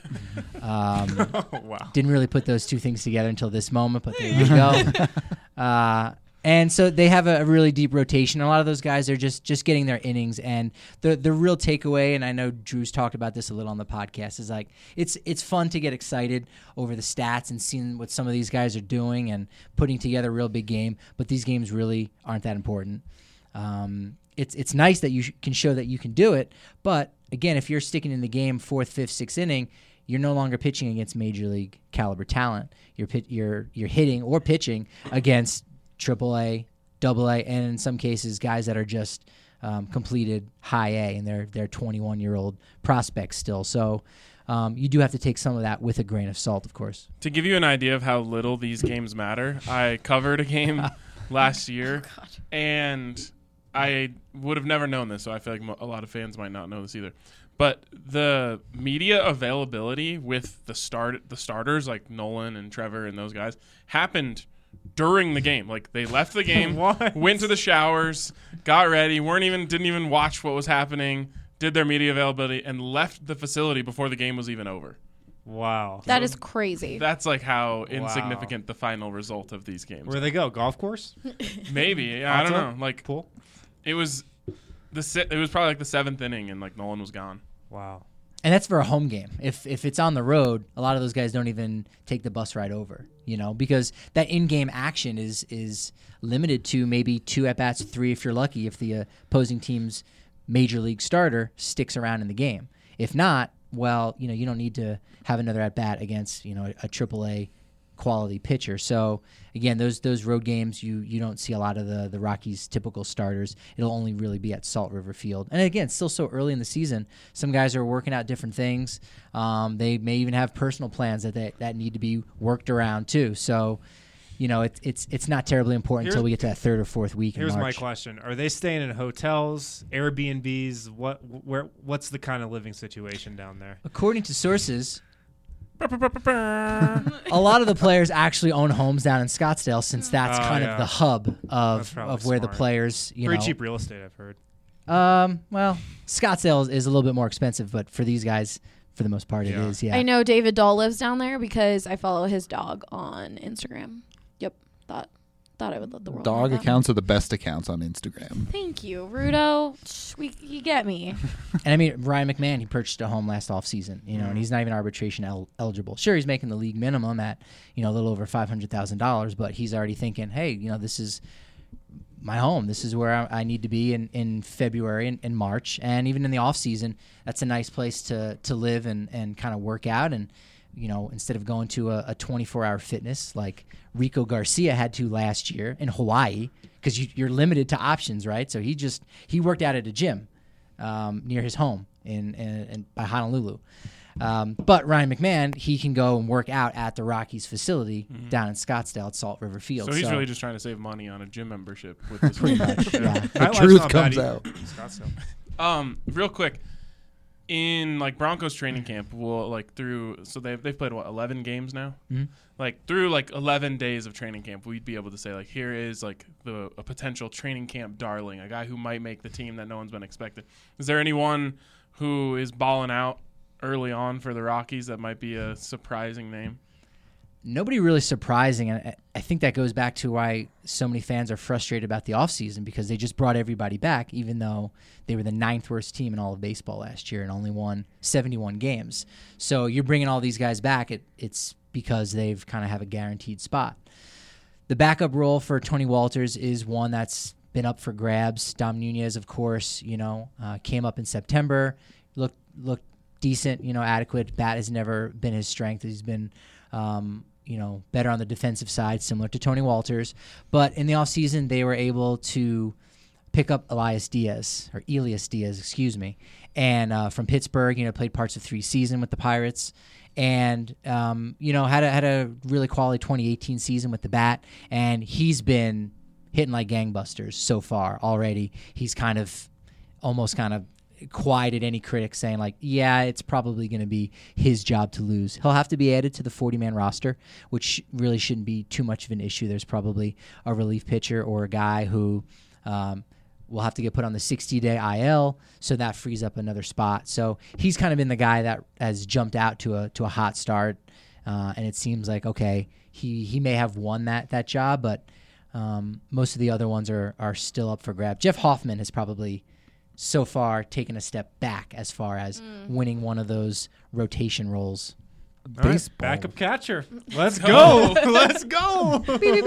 Wow.
Didn't really put those two things together until this moment, but there you go. And so they have a really deep rotation. A lot of those guys are just getting their innings. And the real takeaway, and I know Drew's talked about this a little on the podcast, is like it's fun to get excited over the stats and seeing what some of these guys are doing and putting together a real big game. But these games really aren't that important. It's nice that you can show that you can do it. But again, if you're sticking in the game 4th, 5th, 6th inning, you're no longer pitching against major league caliber talent. You're hitting or pitching against AAA, AA, and in some cases, guys that are just completed high A, and they're 21-year-old prospects still. So you do have to take some of that with a grain of salt, of course.
To give you an idea of how little these games matter, I covered a game last year, and I would have never known this, so I feel like a lot of fans might not know this either. But the media availability with the starters like Nolan and Trevor and those guys happened during the game. Like, they left the game, went to the showers, got ready, didn't even watch what was happening, did their media availability, and left the facility before the game was even over.
Wow.
That is crazy.
That's like how insignificant the final result of these games.
Where they go? Golf course?
Maybe. Yeah, I don't know. Like,
pool?
It was probably like the 7th inning, and like Nolan was gone.
Wow.
And that's for a home game. If it's on the road, a lot of those guys don't even take the bus ride over, because that in-game action is limited to maybe 2 at-bats, 3 if you're lucky, if the opposing team's major league starter sticks around in the game. If not, well, you don't need to have another at-bat against, a AAA quality pitcher. So again, those road games, you don't see a lot of the Rockies' typical starters. It'll only really be at Salt River Field. And again, still so early in the season. Some guys are working out different things. They may even have personal plans that need to be worked around too. So, it's not terribly important until we get to that 3rd or 4th week in March.
Here's my question: are they staying in hotels, Airbnbs? What's the kind of living situation down there?
According to sources, a lot of the players actually own homes down in Scottsdale, since that's of the hub of where the players,
pretty cheap real estate, I've heard.
Well, Scottsdale is a little bit more expensive, but for these guys, for the most part, it is. Yeah,
I know David Dahl lives down there because I follow his dog on Instagram. Yep, thought I would let the world
dog
know that.
Accounts are the best accounts on Instagram.
Thank you, Rudo. You get me.
And I mean, Ryan McMahon, he purchased a home last offseason, and he's not even arbitration eligible. Sure, he's making the league minimum at, a little over $500,000, but he's already thinking, hey, this is my home. This is where I need to be in February and March. And even in the off season, that's a nice place to live and kind of work out. And, instead of going to a 24-hour fitness like Rico Garcia had to last year in Hawaii, because you're limited to options, right? So he worked out at a gym near his home in by Honolulu. But Ryan McMahon, he can go and work out at the Rockies facility down in Scottsdale at Salt River Field.
So he's really just trying to save money on a gym membership with this.
Pretty much, yeah.
The truth comes out.
Real quick, in like Broncos training camp, they've played 11 games now.
Mm-hmm.
Like through like 11 days of training camp, we'd be able to say like, here is like a potential training camp darling, a guy who might make the team that no one's been expecting. Is there anyone who is balling out early on for the Rockies that might be a surprising name?
Nobody really surprising, and I think that goes back to why so many fans are frustrated about the offseason, because they just brought everybody back, even though they were the 9th worst team in all of baseball last year and only won 71 games. So you're bringing all these guys back, it's because they've kind of have a guaranteed spot. The backup role for Tony Walters is one that's been up for grabs. Dom Nunez, of course, came up in September, looked decent, adequate. Bat has never been his strength. He's been better on the defensive side, similar to Tony Walters. But in the offseason, they were able to pick up Elias Diaz, and from Pittsburgh, played parts of 3 seasons with the Pirates, and had a really quality 2018 season with the bat, and he's been hitting like gangbusters so far already. He's almost quieted any critic saying like, yeah, it's probably going to be his job to lose. He'll have to be added to the 40-man roster, which really shouldn't be too much of an issue. There's probably a relief pitcher or a guy who will have to get put on the 60-day IL, so that frees up another spot. So he's kind of been the guy that has jumped out to a hot start, and it seems like, okay, he may have won that job, but Most of the other ones are still up for grab. Jeff Hoffman has probably so far taken a step back as far as winning one of those rotation roles.
Right, backup catcher. Let's go. Let's go.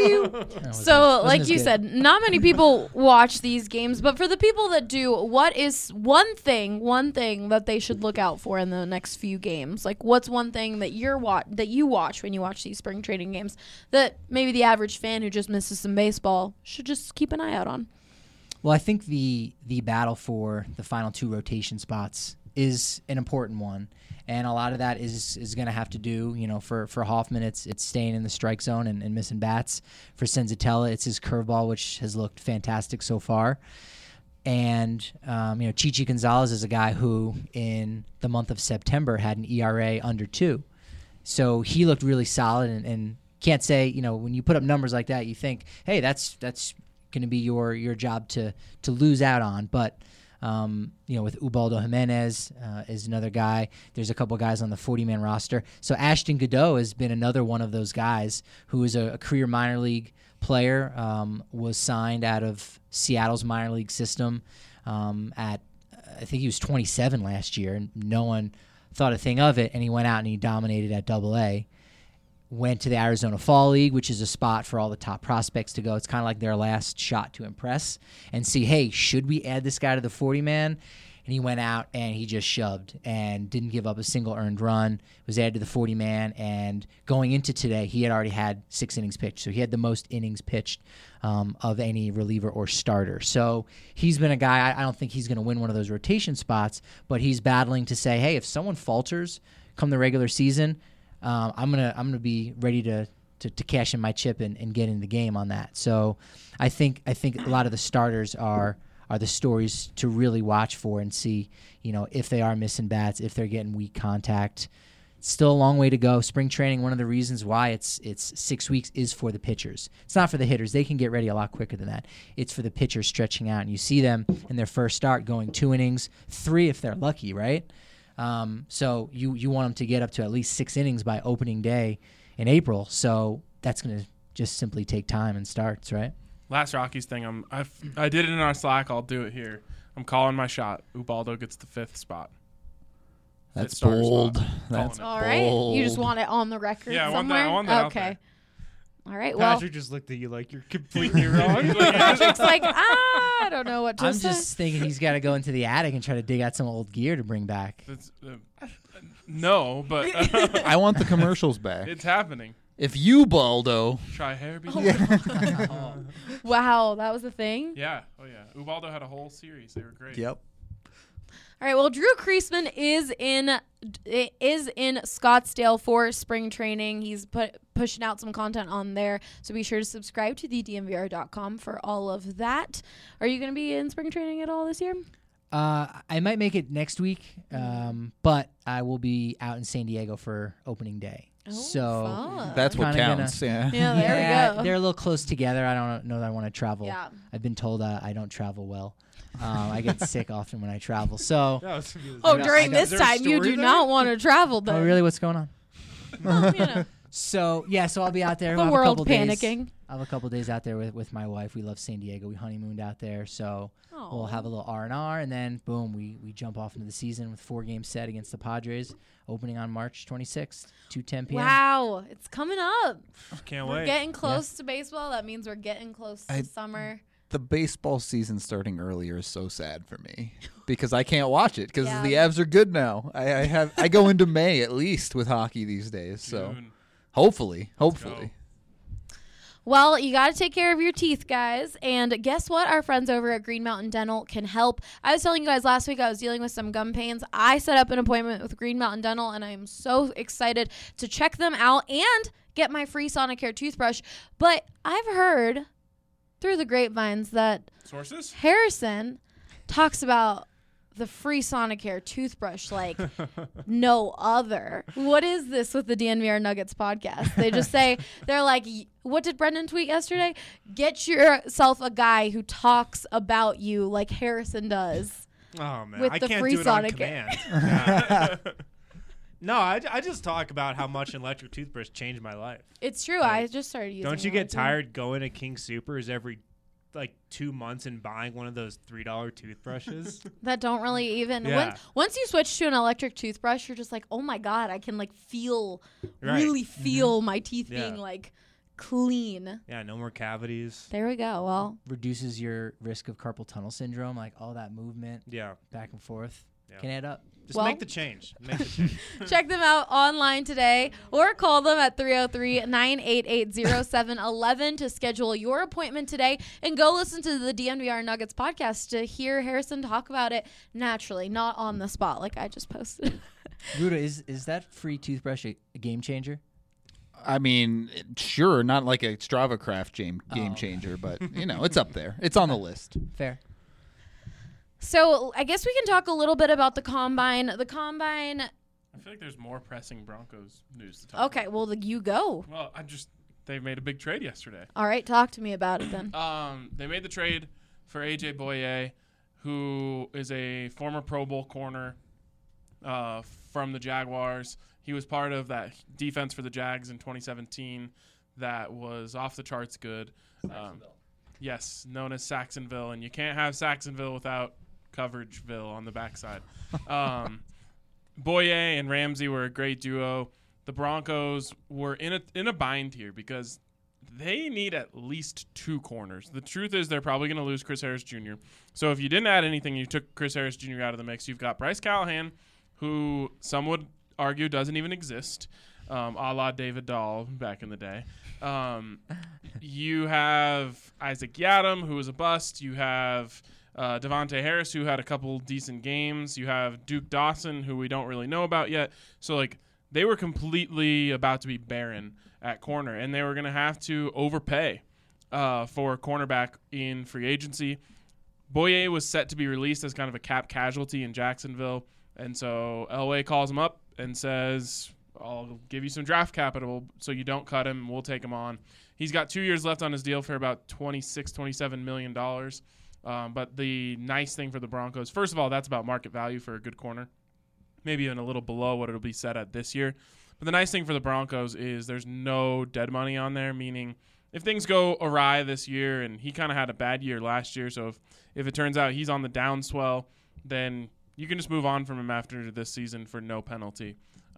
So, like you said, not many people watch these games, but for the people that do, what is one thing that they should look out for in the next few games? Like, what's one thing that you watch when you watch these spring training games that maybe the average fan who just misses some baseball should just keep an eye out on?
Well, I think the battle for the final 2 rotation spots is an important one. And a lot of that is going to have to do, for Hoffman, it's staying in the strike zone and missing bats. For Senzatella, it's his curveball, which has looked fantastic so far. And, Chichi Gonzalez is a guy who, in the month of September, had an ERA under 2. So he looked really solid and can't say, when you put up numbers like that, you think, hey, that's going to be your job to lose out on. But with Ubaldo Jimenez is another guy. There's a couple guys on the 40-man roster. So Ashton Godot has been another one of those guys who is a career minor league player, was signed out of Seattle's minor league system I think he was 27 last year, and no one thought a thing of it, and he went out and he dominated at AA. Went to the Arizona Fall League, which is a spot for all the top prospects to go. It's kind of like their last shot to impress and see, hey, should we add this guy to the 40-man? And he went out and he just shoved and didn't give up a single earned run, was added to the 40-man, and going into today, he had already had 6 innings pitched. So he had the most innings pitched of any reliever or starter. So he's been a guy, I don't think he's going to win one of those rotation spots, but he's battling to say, hey, if someone falters come the regular season, I'm gonna be ready to cash in my chip and get in the game on that. So I think a lot of the starters are the stories to really watch for and see, if they are missing bats, if they're getting weak contact. It's still a long way to go. Spring training, one of the reasons why it's 6 weeks is for the pitchers. It's not for the hitters. They can get ready a lot quicker than that. It's for the pitchers stretching out, and you see them in their first start going 2 innings, 3 if they're lucky, right? So you want them to get up to at least 6 innings by opening day in April. So that's going to just simply take time and starts, right?
Last Rockies thing, I did it in our Slack. I'll do it here. I'm calling my shot. Ubaldo gets the 5th spot.
That's bold. That's
all right.
bold.
You just want it on the record
somewhere?
somewhere?
I want that
okay.
out there.
All right, well.
Patrick just looked at you like you're completely wrong.
Patrick's like, I don't know what to say.
I'm just thinking he's got to go into the attic and try to dig out some old gear to bring back.
No, but
I want the commercials back.
It's happening.
If Ubaldo
Try hair.
Wow, that was a thing?
Yeah. Oh, yeah. Ubaldo had a whole series. They were great.
Yep.
All right, well, Drew Creasman is in Scottsdale for spring training. He's pushing out some content on there, so be sure to subscribe to thedmvr.com for all of that. Are you going to be in spring training at all this year?
I might make it next week, but I will be out in San Diego for opening day.
Oh,
so
fun.
That's what counts.
Yeah, there we go.
They're a little close together. I don't know that I want to travel.
Yeah.
I've been told I don't travel well. I get sick often when I travel. So,
during this time, you do not want to travel. Then.
Oh, really? What's going on?
Well,
So I'll be out there.
The world panicking.
I'll have a couple days out there with my wife. We love San Diego. We honeymooned out there, so we'll have a little R&R, and then boom, we jump off into the season with 4 games set against the Padres, opening on March 26th, 2:10 p.m.
Wow, it's coming up.
Can't
We're
wait.
getting close to baseball. That means we're getting close to summer.
The baseball season starting earlier is so sad for me because I can't watch it because the Avs are good now. I go into May at least with hockey these days, so hopefully.
Well, you got to take care of your teeth, guys. And guess what? Our friends over at Green Mountain Dental can help. I was telling you guys last week I was dealing with some gum pains. I set up an appointment with Green Mountain Dental, and I am so excited to check them out and get my free Sonicare toothbrush. But I've heard through the grapevines that
Sources?
Harrison talks about the free Sonicare toothbrush like no other. What is this with the DNVR Nuggets podcast? They just say, they're like, what did Brendan tweet yesterday? Get yourself a guy who talks about you like Harrison does.
Oh, man.
With
I
the
can't
free
do it on
Sonicare.
command. No, I just talk about how much an electric toothbrush changed my life.
It's true.
Like,
I just started using.
Don't you
it
get
too.
tired going to King Soopers every 2 months and buying one of those $3 toothbrushes?
That don't really even.
Yeah.
Once you switch to an electric toothbrush, you're just like, oh my god, I can
Right.
really feel my teeth
Yeah.
being clean.
Yeah, no more cavities.
There we go. Well,
Reduces your risk of carpal tunnel syndrome, like all that movement
Yeah.
back and forth
Yeah.
can add up.
Just
Well-
make the change. Make the change.
check them out online today or call them at 303-988-0711 to schedule your appointment today, and go listen to the DNVR Nuggets podcast to hear Harrison talk about it naturally, not on the spot like I just posted.
Ruda, is that free toothbrush a game changer?
I mean, sure, not like a Strava Craft game changer, but it's up there. It's on the list.
Fair.
So I guess we can talk a little bit about the Combine. The Combine.
I feel like there's more pressing Broncos news to talk
Okay,
about.
well, you go.
Well, they made a big trade yesterday.
All right, talk to me about it then.
They made the trade for AJ Boye, who is a former Pro Bowl corner from the Jaguars. He was part of that defense for the Jags in 2017 that was off the charts good. Yes, known as Saxonville, and you can't have Saxonville without Coverageville on the backside. Boye and Ramsey were a great duo. The Broncos were in a bind here because they need at least 2 corners. The truth is they're probably going to lose Chris Harris Jr. So if you didn't add anything, you took Chris Harris Jr. out of the mix. You've got Bryce Callahan, who some would argue doesn't even exist, a la David Dahl back in the day. You have Isaac Yiadom, who was a bust. You have Devontae Harris, who had a couple decent games. You have Duke Dawson, who we don't really know about yet. So, they were completely about to be barren at corner, and they were going to have to overpay for a cornerback in free agency. Boye was set to be released as kind of a cap casualty in Jacksonville, and so Elway calls him up and says, I'll give you some draft capital so you don't cut him. We'll take him on. He's got 2 years left on his deal for about $27 million. But the nice thing for the Broncos, first of all, that's about market value for a good corner, maybe even a little below what it'll be set at this year. But the nice thing for the Broncos is there's no dead money on there, meaning if things go awry this year, and he kind of had a bad year last year, so if it turns out he's on the downswell, then you can just move on from him after this season for no penalty.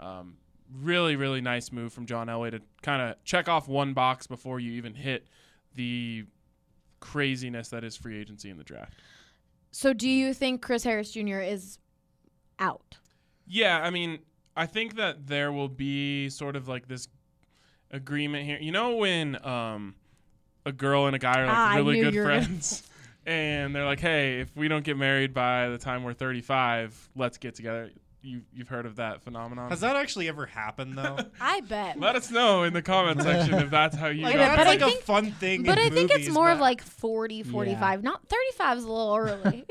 Really, really nice move from John Elway to kind of check off one box before you even hit the craziness that is free agency in the draft.
So do you think Chris Harris Jr. is out?
Yeah, I mean, I think that there will be sort of this agreement here. You know when a girl and a guy are really good friends and they're like, hey, if we don't get married by the time we're 35, let's get together. You've heard of that phenomenon?
Has that actually ever happened, though?
I bet.
Let us know in the comment section if that's how you
Like,
got
that's
but
like
I
a fun thing
But
in
I think
movies,
it's more of
but
40, 45. Not 35 is a little early.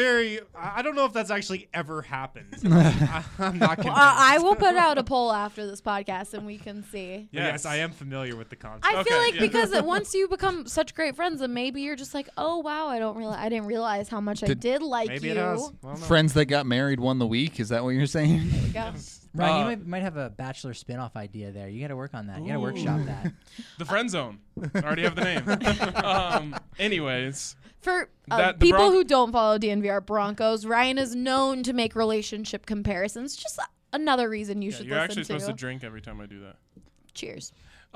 I don't know if that's actually ever happened. I'm not convinced.
I will put out a poll after this podcast and we can see.
Yes, I am familiar with the concept.
I feel
Okay,
like
yeah.
because once you become such great friends, then maybe you're just like, oh wow, I didn't realize how much I did like
Maybe
you.
it has. Well, no.
Friends that got married won the week. Is that what you're saying?
There we go.
Ryan, you might have a Bachelor spinoff idea there. You got to work on that. You got to workshop that.
The friend zone. I already have the name. Anyways,
For
The
people who don't follow DNVR Broncos, Ryan is known to make relationship comparisons. Just another reason you should
you're
listen
actually
to.
supposed to drink every time I do that.
Cheers.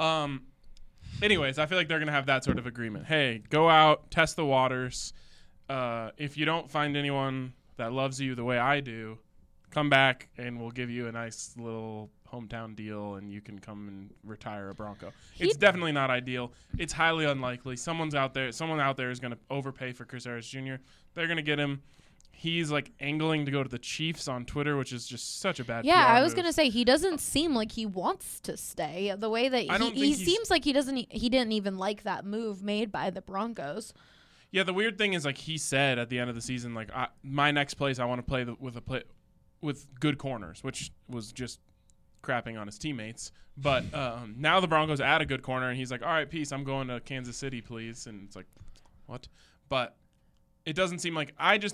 Anyways, I feel like they're going to have that sort of agreement. Hey, go out, test the waters. If you don't find anyone that loves you the way I do, come back and we'll give you a nice little hometown deal and you can come and retire a Bronco. It's definitely not ideal. It's highly unlikely. Someone out there is going to overpay for Chris Harris Jr. They're going to get him. He's angling to go to the Chiefs on Twitter, which is just such a bad PR
I was
move.
gonna say he doesn't seem like he wants to stay. The way that he seems like he didn't even like that move made by the Broncos.
Yeah, the weird thing is he said at the end of the season my next place I want to play with good corners, which was just crapping on his teammates. But now the Broncos add a good corner, and he's like, all right, peace, I'm going to Kansas City, please. And it's like, what? But it doesn't seem like – I just think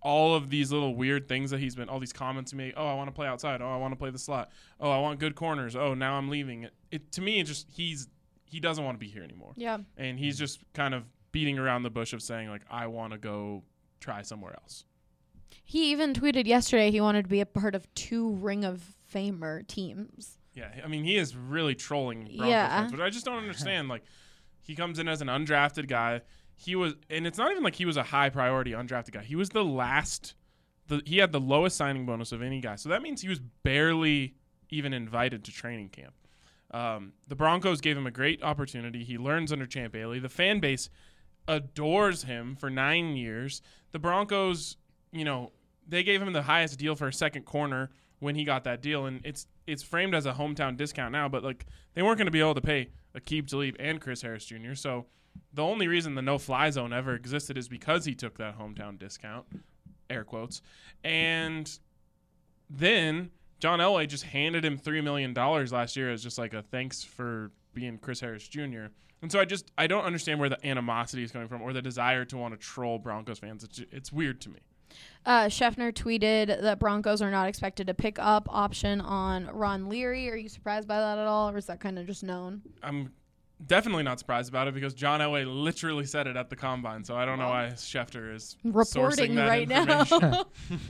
all of these little weird things that he's been, all these comments he made. Oh, I want to play outside. Oh, I want to play the slot. Oh, I want good corners. Oh, now I'm leaving. To me, it just he doesn't want to be here anymore.
Yeah.
And he's just kind of beating around the bush of saying, like, I want to go try somewhere else.
He even tweeted yesterday he wanted to be a part of 2 Ring of Famer teams.
Yeah, I mean, he is really trolling Broncos fans, which I just don't understand. Like, he comes in as an undrafted guy. And it's not even like he was a high priority undrafted guy. He was he had the lowest signing bonus of any guy. So that means he was barely even invited to training camp. The Broncos gave him a great opportunity. He learns under Champ Bailey. The fan base adores him for 9 years. The Broncos, they gave him the highest deal for a second corner when he got that deal, and it's framed as a hometown discount now, but like they weren't going to be able to pay Aqib Talib and Chris Harris Jr., so the only reason the no-fly zone ever existed is because he took that hometown discount, air quotes, and then John Elway just handed him $3 million last year as just like a thanks for being Chris Harris Jr., and so I don't understand where the animosity is coming from or the desire to want to troll Broncos fans. It's weird to me.
Schefter tweeted that Broncos are not expected to pick up option on Ron Leary. Are you surprised by that at all, or is that kind of just known?
I'm definitely not surprised about it because John Elway literally said it at the Combine, so I don't know why Schefter is
reporting
that
right now.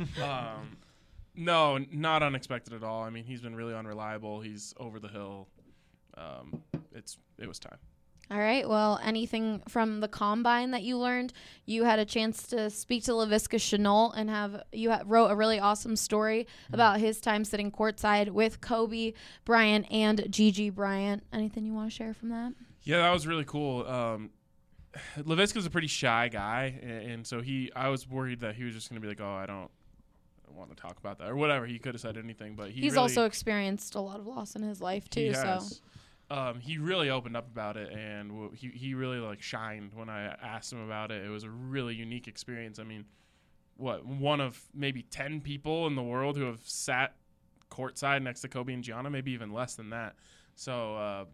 No, not unexpected at all. I mean, he's been really unreliable. He's over the hill. It was time.
All right. Well, anything from the Combine that you learned? You had a chance to speak to Laviska Shenault and wrote a really awesome story about his time sitting courtside with Kobe Bryant and Gigi Bryant. Anything you want to share from that?
Yeah, that was really cool. Laviska's a pretty shy guy, and so I was worried that he was just going to be like, oh, I don't want to talk about that or whatever. He could have said anything, but he's
also experienced a lot of loss in his life too.
He really opened up about it, and he really shined when I asked him about it. It was a really unique experience. I mean, one of maybe 10 people in the world who have sat courtside next to Kobe and Gianna, maybe even less than that. So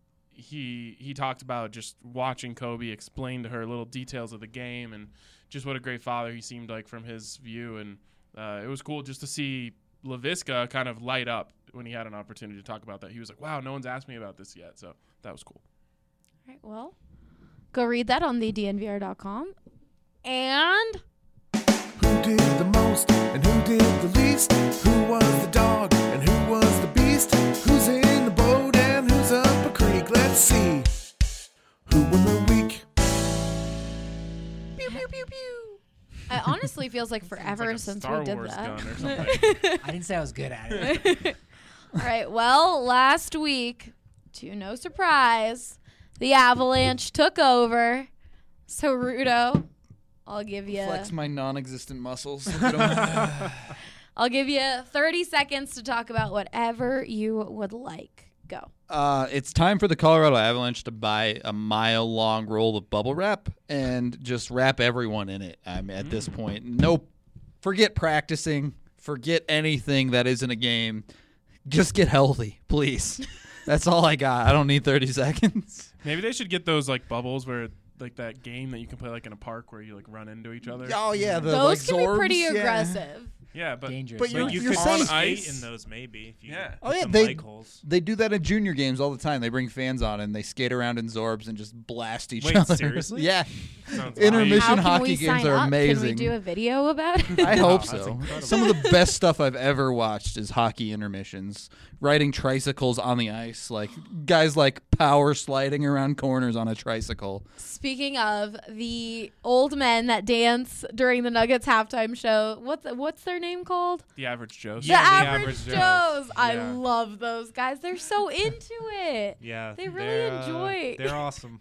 he talked about just watching Kobe explain to her little details of the game and just what a great father he seemed like from his view. And it was cool just to see Laviska kind of light up when he had an opportunity to talk about that. He was like, wow, no one's asked me about this yet. So that was cool.
All right, well, go read that on thednvr.com. And
who did the most and who did the least? Who was the dog and who was the beast? Who's in the boat and who's up a creek? Let's see. Who won the week?
Pew, pew, pew, pew. It honestly feels like forever since we did that.
I didn't say I was good at it.
All right. Well, last week, to no surprise, the Avalanche took over. So, Rudo, I'll give you...
Flex my non-existent muscles.
I'll give you 30 seconds to talk about whatever you would like. Go.
It's time for the Colorado Avalanche to buy a mile-long roll of bubble wrap and just wrap everyone in it. At this point, forget practicing, forget anything that isn't a game. Just get healthy, please. That's all I got. I don't need 30 seconds.
Maybe they should get those bubbles where that game that you can play in a park where you run into each other.
Oh yeah,
those can be pretty aggressive.
Yeah, but
dangerous.
But
you
you're
can
safe.
skate in those maybe. If you
They do that in junior games all the time. They bring fans on and they skate around in Zorbs and just blast each other.
Seriously?
Yeah.
Sounds
Intermission
How
hockey
can we
games
sign
are
up?
amazing.
Can we do a video about it?
I hope
that's
so.
incredible.
Some of the best stuff I've ever watched is hockey intermissions. Riding tricycles on the ice, guys power sliding around corners on a tricycle.
Speaking of the old men that dance during the Nuggets halftime show, what's their name called?
The Average Joes.
The Average Joes. I
Yeah.
love those guys. They're so into it.
Yeah,
They really enjoy.
They're awesome.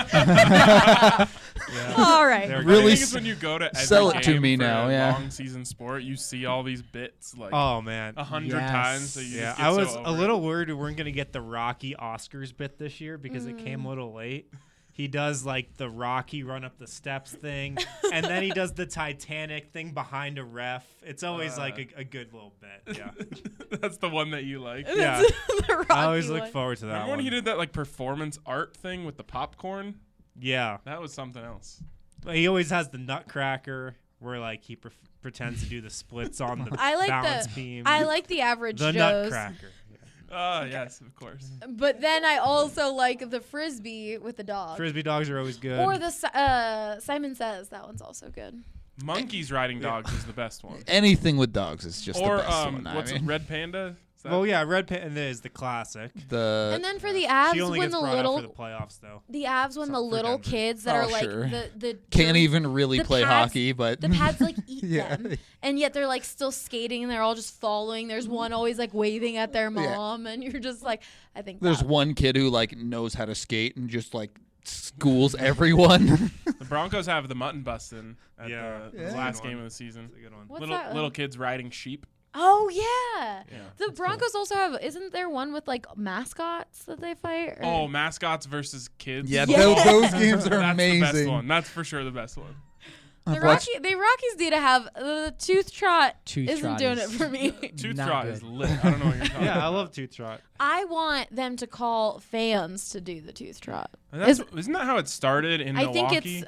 All right.
They're
Really
I think it's when you go to every
sell it
game
to me
for
now,
a
yeah.
long season sport, you see all these bits
Oh man,
100
Yes.
times. So you
yeah.
just get
I was
so
a
over
little
it.
worried we weren't gonna get the Rocky Oscars bit this year because it came a little late. He does the Rocky run up the steps thing, and then he does the Titanic thing behind a ref. It's always a good little bit. Yeah,
That's the one that you like.
yeah.
The Rocky
I always look
one.
forward to that
Remember when
one.
he did that performance art thing with the popcorn?
Yeah,
That was something else.
he always has the Nutcracker. where like he pretends to do the splits on the
I like
balance beam.
I like the average
the
Joes.
Nutcracker.
Yes, of course.
But then I also like the frisbee with the dog.
Frisbee dogs are always good.
Or the Simon Says. That one's also good.
Monkeys riding dogs is the best one.
Anything with dogs is just
Or
the best one.
what's it, Red Panda? Is that-
Oh yeah, Red Panda is the classic.
And then for the Avs,
She only
when
gets
the
brought up
little
for the playoffs though.
the Avs when the
for
little
Denver.
kids that are like
sure.
the
Can't even really
the
play
pads-
hockey, but
the pads like eat
Yeah.
them, and yet they're like still skating and they're all just following. There's one always like waving at their
Yeah.
mom, and you're just like, I think
there's
that-
one kid who like knows how to skate and just like schools everyone.
The Broncos have the mutton busting at
Yeah.
the
That's a
last
good
game
one.
of the season.
That's a good one.
What's
Little
that?
little kids riding sheep.
Oh yeah.
Yeah,
The Broncos also have. Isn't there one with like mascots that they fight? Or-
Oh, mascots versus kids.
Yeah,
Yeah.
Those games are
That's
amazing.
the best one. That's for sure the best one.
The Rockies need to have the Tooth Trot.
Tooth
isn't
Trot
doing
is-
it for me.
Tooth
Not
Trot
good.
is lit. I don't know what you're talking
Yeah, I
about.
love Tooth Trot.
I want them to call fans to do the Tooth Trot.
Isn't that how it started in
I
Milwaukee?
think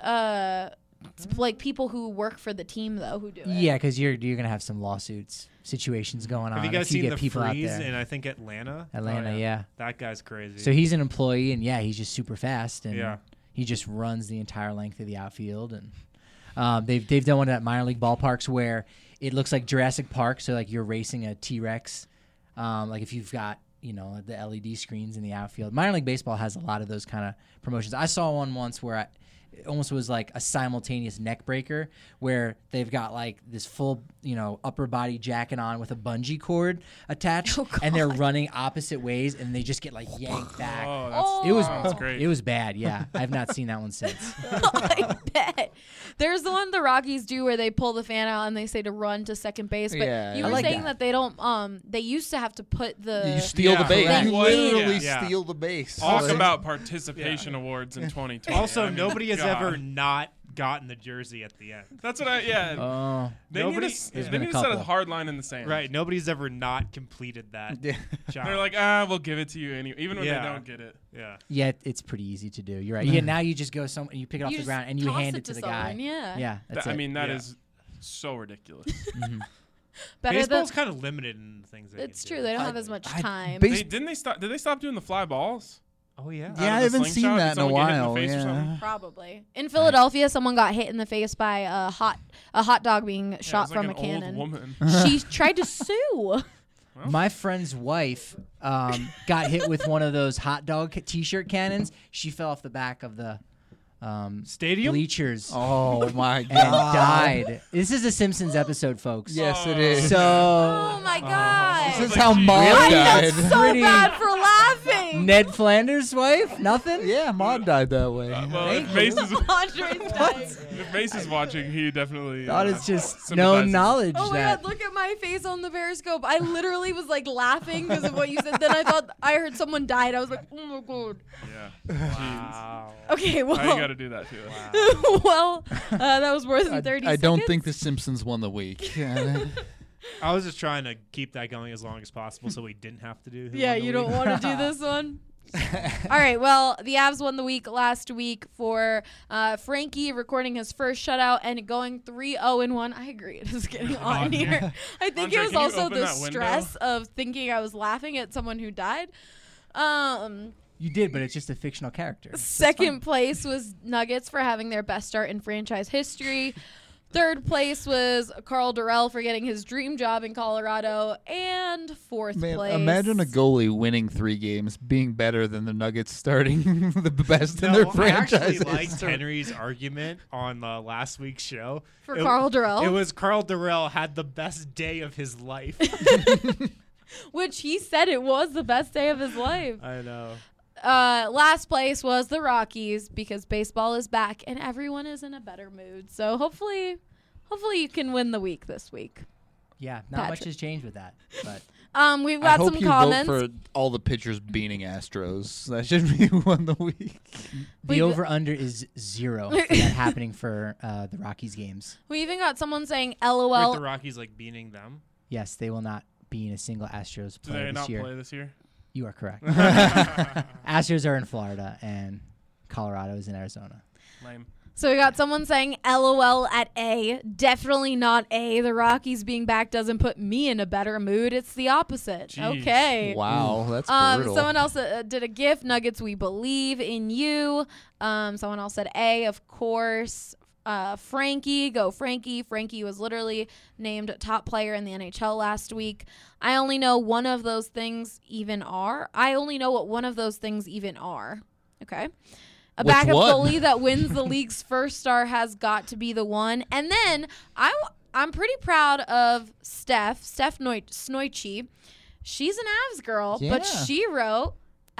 it's like people who work for the team though who do it.
Yeah, because you're gonna have some lawsuits situations going on.
Have you guys
if you
seen
get
the
people out
freeze
there.
in I think Atlanta?
Atlanta,
Oh,
yeah.
That guy's crazy.
So he's an employee, and yeah, he's just super fast, and
Yeah.
he just runs the entire length of the outfield. And they've done one at minor league ballparks where it looks like Jurassic Park. So like you're racing a T-Rex, like if you've got the LED screens in the outfield. Minor league baseball has a lot of those kind of promotions. I saw one once where it almost was like a simultaneous neck breaker where they've got like this full, upper body jacket on with a bungee cord attached, and they're running opposite ways, and they just get like yanked back.
Oh,
It was
sounds great.
It was bad. Yeah, I've not seen that one since.
I bet. There's the one the Rockies do where they pull the fan out and they say to run to second base. But
Yeah,
you
I
were
like
saying
that.
that they don't. They used to have to put the.
You steal the
Yeah,
base.
correct.
You literally
Yeah.
steal the base.
Talk
Like-
about participation awards in 2020.
Also,
I mean,
nobody has
God.
ever not gotten the jersey at the end.
That's what I. Yeah.
Oh,
They
nobody-
need to,
There's
they
been a
need to set a
couple.
hard line in the sand.
Right. Nobody's ever not completed that
Yeah.
job.
They're like, we'll give it to you anyway, even when
Yeah.
they don't get it.
yeah.
yeah, it's pretty easy to do. You're right. Yeah, now you just go you pick it off
You
the
just
ground and you
toss
hand
it
it to the
someone,
guy.
yeah.
Yeah, that's
I
it.
mean, that
Yeah.
is so ridiculous.
Better
Baseball's
than.
kind of limited in the things they
It's
can
true.
do.
They don't have as much time.
base-
Did they stop doing the fly balls?
Oh yeah.
Out
Yeah, I
of the
haven't seen
slingshot?
that
Did
in a
someone get hit in the
while.
face or
Yeah.
something?
Probably. In Philadelphia, someone got hit in the face by a hot dog being
Yeah, it
shot
was like
from
an
a cannon.
Old woman.
She tried to sue.
My friend's wife got hit with one of those hot dog T-shirt cannons. She fell off the back of the
Stadium.
bleachers
Oh my
and
god!
died. This is a Simpsons episode, folks.
Yes, it is.
So
Oh my god.
this is
like,
how
geez.
Maud
I
died.
felt so
Pretty-
bad for laughing.
Ned Flanders' wife, nothing.
Yeah, Maud died that way.
Well, if Mace is
Andre's dying.
if Mace is watching, he definitely.
Thought it's just
sympathizes.
known knowledge
Oh my
that.
god, look at my face on the Periscope. I literally was like laughing because of what you said. Then I thought I heard someone died. I was like, oh my god.
Yeah.
Wow.
Okay,
I
well.
got to do that too.
well, that was more than 30
I
seconds.
don't think The Simpsons won the week.
I was just trying to keep that going as long as possible so we didn't have to do. Who
Yeah,
Won the
you don't
Week.
want to do this one? All right, well, the Avs won the week last week for Frankie recording his first shutout and going 3-0-1. I agree. It is getting on here. I think
Andre,
it was
can you
also
open
the
that window?
stress of thinking I was laughing at someone who died.
You did, but it's just a fictional character.
Second place was Nuggets for having their best start in franchise history. Third place was Carl Durrell for getting his dream job in Colorado. And fourth
Man,
place.
imagine a goalie winning 3 games, being better than the Nuggets starting the best in their
I
franchise.
actually liked Henry's argument on last week's show.
For Carl Durrell?
It was Carl Durrell had the best day of his life.
Which he said it was the best day of his life.
I know.
Last place was the Rockies because baseball is back and everyone is in a better mood. So hopefully you can win the week this week.
Yeah, not much
Patrick.
has changed with that. But
We've
I
got
hope
some
you
comments.
vote for all the pitchers beating Astros. That should be won the week.
the over/under is 0 for that happening for the Rockies games.
We even got someone saying
With
LOL.
the Rockies like beating them.
Yes, they will not be in a single Astros
Do
play
they
this
not
year.
play this year?
You are correct. Astros are in Florida and Colorado is in Arizona.
Lame.
So we got someone saying LOL at A. Definitely not A. The Rockies being back doesn't put me in a better mood. It's the opposite.
Jeez.
Okay.
Wow, that's brutal.
Someone else did a GIF. Nuggets, we believe in you. Someone else said A, of course. Frankie, go Frankie. Frankie was literally named top player in the NHL last week. I only know one of those things even are. I only know what one of those things even are. Okay. A
Which
backup
one?
goalie that wins the league's first star has got to be the one. And then I'm pretty proud of Steph Snoichi. She's an Avs girl, but she wrote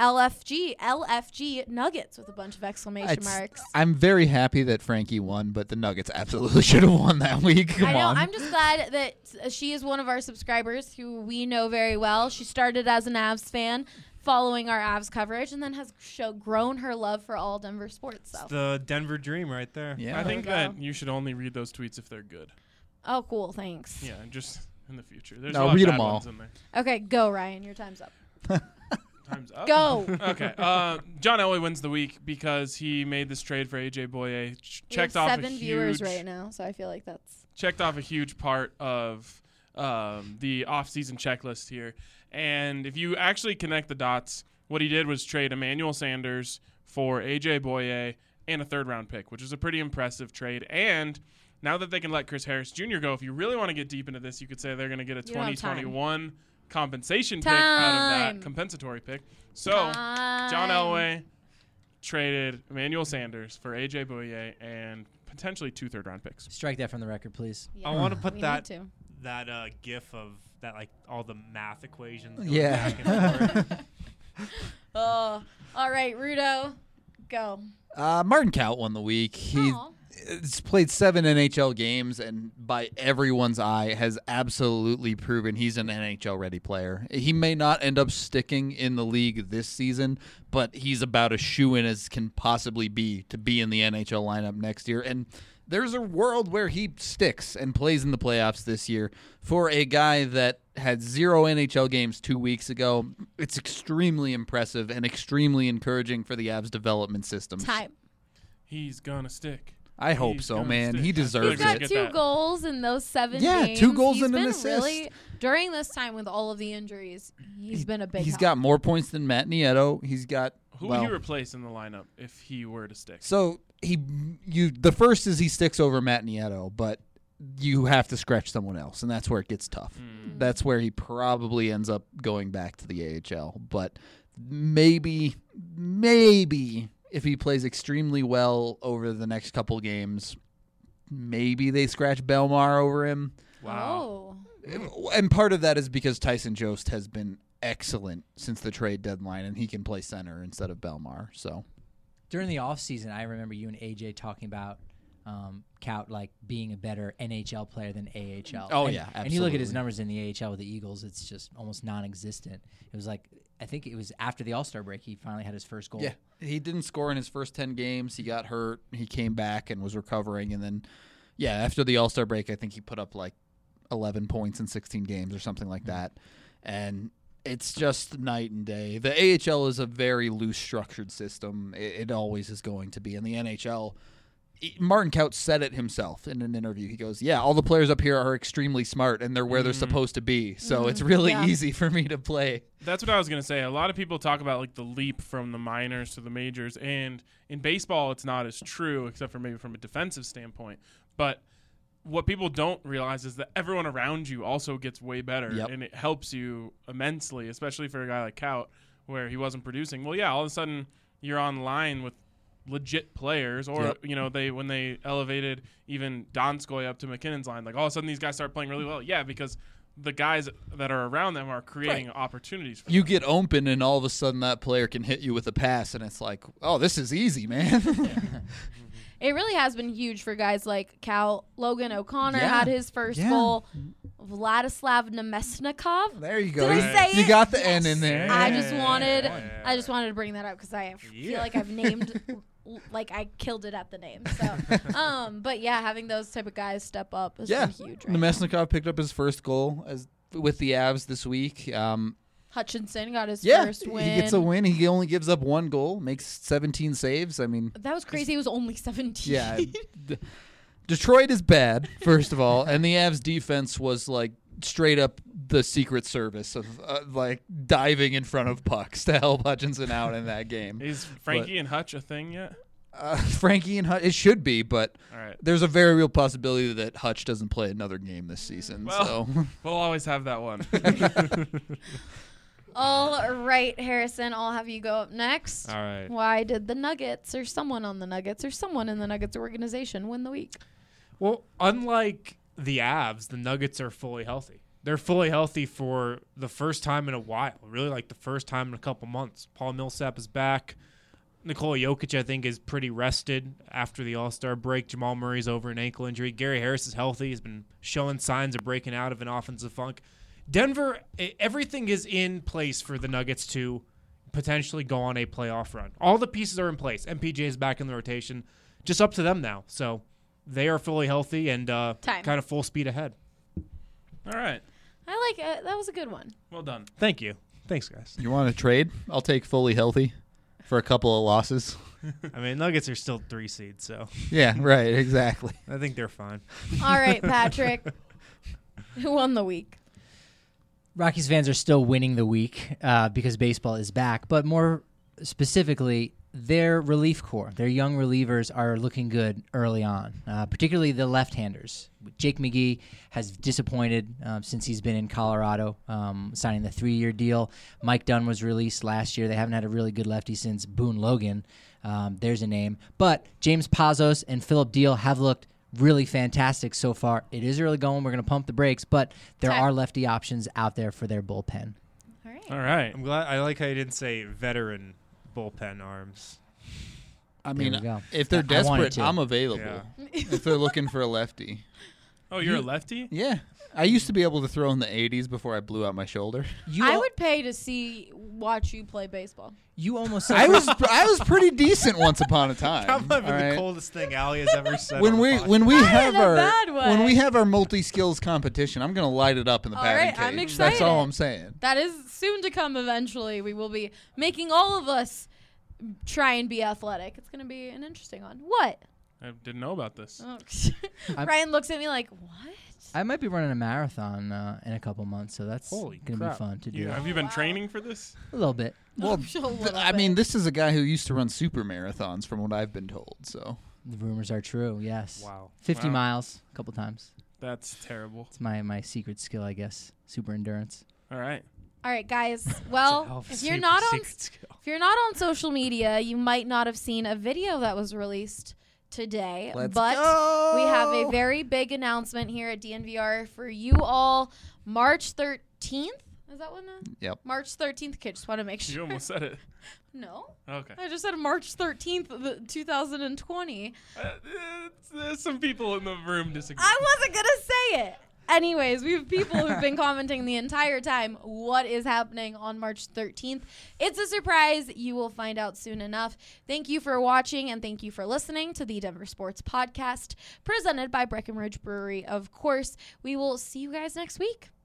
LFG Nuggets with a bunch of exclamation marks.
I'm very happy that Frankie won, but the Nuggets absolutely should have won that week. Come on.
I'm just glad that she is one of our subscribers who we know very well. She started as an Avs fan, following our Avs coverage, and then has grown her love for all Denver sports. So.
It's the Denver dream right there.
Yeah.
I think that you should only read those tweets if they're good.
Oh, cool. Thanks.
Yeah, just in the future. There's
No,
a lot
read
of bad
'em all.
ones in there.
Okay, go, Ryan. Your time's up.
Time's up.
Go.
Okay. John Elway wins the week because he made this trade for AJ Boye. Checked
we
off
have
a
7
huge
viewers right now, so I feel like that's
checked off a huge part of the offseason checklist here. And if you actually connect the dots, what he did was trade Emmanuel Sanders for AJ Boye and a 3rd-round pick, which is a pretty impressive trade. And now that they can let Chris Harris Jr. go, if you really want to get deep into this, you could say they're going to get a 2021 compensation pick out of that compensatory pick. So John Elway traded Emmanuel Sanders for AJ Boye and potentially 2 3rd-round picks.
Strike that from the record, please.
yeah,
I want to put
we
that
need to.
GIF of that, like all the math equations. Going
Yeah.
back and forth.
Oh, all right, Rudo, go.
Martin Kaut won the week. He's played 7 NHL games, and by everyone's eye, has absolutely proven he's an NHL-ready player. He may not end up sticking in the league this season, but he's about as shoo-in as can possibly be to be in the NHL lineup next year. And there's a world where he sticks and plays in the playoffs this year. For a guy that had 0 NHL games 2 weeks ago, it's extremely impressive and extremely encouraging for the Avs development system.
Time.
He's going to stick.
I hope
He's
so,
gonna
man.
stick.
He deserves
He's got
it.
2 goals in those 7
Yeah,
games.
2 goals
He's
and an
been
assist.
Really, during this time with all of the injuries, he's been a big
He's
help.
got more points than Matt Nieto. He's got
Who would you replace in the lineup if he were to stick?
So the first is he sticks over Matt Nieto, but you have to scratch someone else, and that's where it gets tough. That's where he probably ends up going back to the AHL. But maybe if he plays extremely well over the next couple games, maybe they scratch Belmar over him.
Wow.
And part of that is because Tyson Jost has been excellent since the trade deadline, and he can play center instead of Belmar. So
During the offseason, I remember you and AJ talking about Kaut like being a better NHL player than AHL.
Oh,
and,
yeah,
And you look at his
absolutely.
numbers in the AHL with the Eagles, it's just almost non-existent. It was like, I think it was after the All-Star break he finally had his first goal.
yeah, he didn't score in his first 10 games. He got hurt. He came back and was recovering, and then after the All-Star break, I think he put up like 11 points in 16 games or something like that. And it's just night and day. The AHL is a very loose structured system. It always is going to be. In the NHL, Martin Kaut said it himself in an interview. He goes, all the players up here are extremely smart, and they're where they're supposed to be. So it's really easy for me to play.
That's what I was going to say. A lot of people talk about like the leap from the minors to the majors, and in baseball it's not as true, except for maybe from a defensive standpoint. But what people don't realize is that everyone around you also gets way better, and it helps you immensely, especially for a guy like Kaut, where he wasn't producing. Well, all of a sudden you're on line with legit players, or when they elevated even Donskoy up to McKinnon's line, like all of a sudden these guys start playing really well. Yeah, because the guys that are around them are creating opportunities for
You
them.
get open, and all of a sudden that player can hit you with a pass, and it's like, oh, this is easy, man.
It really has been huge for guys like Cal. Logan O'Connor had his first goal. Vladislav Nemesnikov.
There you go.
Did I say
you
it?
got the N in there.
I just wanted to bring that up because I feel like I've named, like I killed it at the name. So, but having those type of guys step up has been huge. Right
Nemesnikov picked up his first goal with the Avs this week.
Hutchinson got his first win.
He gets a win. He only gives up 1 goal, makes 17 saves. I mean,
that was crazy. It was only 17.
Yeah. Detroit is bad, first of all, and the Avs defense was like straight up the Secret Service of like diving in front of pucks to help Hutchinson out in that game.
Is Frankie and Hutch a thing yet?
Frankie and Hutch, it should be, but
right.
There's a very real possibility that Hutch doesn't play another game this season.
Well,
so
we'll always have that one.
All right, Harrison, I'll have you go up next.
All right.
Why did the Nuggets or someone on the Nuggets or someone in the Nuggets organization win the week?
Well, unlike the Avs, the Nuggets are fully healthy. They're fully healthy for the first time in a while, really like the first time in a couple months. Paul Millsap is back. Nikola Jokic, I think, is pretty rested after the All-Star break. Jamal Murray's over an ankle injury. Gary Harris is healthy. He's been showing signs of breaking out of an offensive funk. Denver, everything is in place for the Nuggets to potentially go on a playoff run. All the pieces are in place. MPJ is back in the rotation. Just up to them now. So they are fully healthy and kind of full speed ahead.
All right.
I like it. That was a good one.
Well done.
Thank you. Thanks, guys.
you want to trade? I'll take fully healthy for a couple of losses.
I mean, Nuggets are still 3 seeds, so
Yeah, right, exactly.
I think they're fine.
All right, Patrick. Who won the week?
Rockies fans are still winning the week because baseball is back, but more specifically, their relief corps, their young relievers are looking good early on, particularly the left-handers. Jake McGee has disappointed since he's been in Colorado, signing the 3-year deal. Mike Dunn was released last year. They haven't had a really good lefty since Boone Logan. There's a name. But James Pazos and Philip Deal have looked really fantastic so far. It is early going. We're going to pump the brakes, but there are lefty options out there for their bullpen.
All right.
All right.
I'm glad. I like how you didn't say veteran bullpen arms.
I
There
mean,
we go.
if they're
I wanted
desperate,
to.
I'm available.
Yeah.
If they're looking for a lefty.
Oh, you're a lefty?
Yeah. I used to be able to throw in the 80s before I blew out my shoulder.
I would pay to watch you play baseball.
You almost
I was pretty decent once upon a time.
That might be
all
the
right?
coldest thing Allie has ever said.
When
on the
we
podcast.
when we
Not
have
in a
our
bad way.
when we have our multi-skills competition, I'm gonna light it up in the
All
batting
right,
cage.
I'm
That's
excited.
all I'm saying.
That is soon to come eventually. We will be making all of us try and be athletic. It's going to be an interesting one. What?
I didn't know about this.
Oh. Ryan looks at me like, what?
I might be running a marathon in a couple months, so that's
Holy
going to be
crap.
fun to do.
Have you been training for this?
A little bit.
Well,
A little
I mean,
bit.
this is a guy who used to run super marathons, from what I've been told. So
The rumors are true, yes.
Wow.
50
Wow.
miles a couple times.
That's terrible.
It's my secret skill, I guess. Super endurance.
All right.
All right, guys. Well, if you're not on social media, you might not have seen a video that was released today.
Let's
but
go!
we have a very big announcement here at DNVR for you all. March 13th. Is that one?
Yep.
March 13th. Okay, just want to make
You
sure.
almost said it.
No.
Okay.
I just said March 13th, 2020.
There's some people in the room disagree.
I wasn't going to say it. Anyways, we have people who've been commenting the entire time what is happening on March 13th. It's a surprise. You will find out soon enough. Thank you for watching and thank you for listening to the Denver Sports Podcast presented by Breckenridge Brewery. Of course, we will see you guys next week.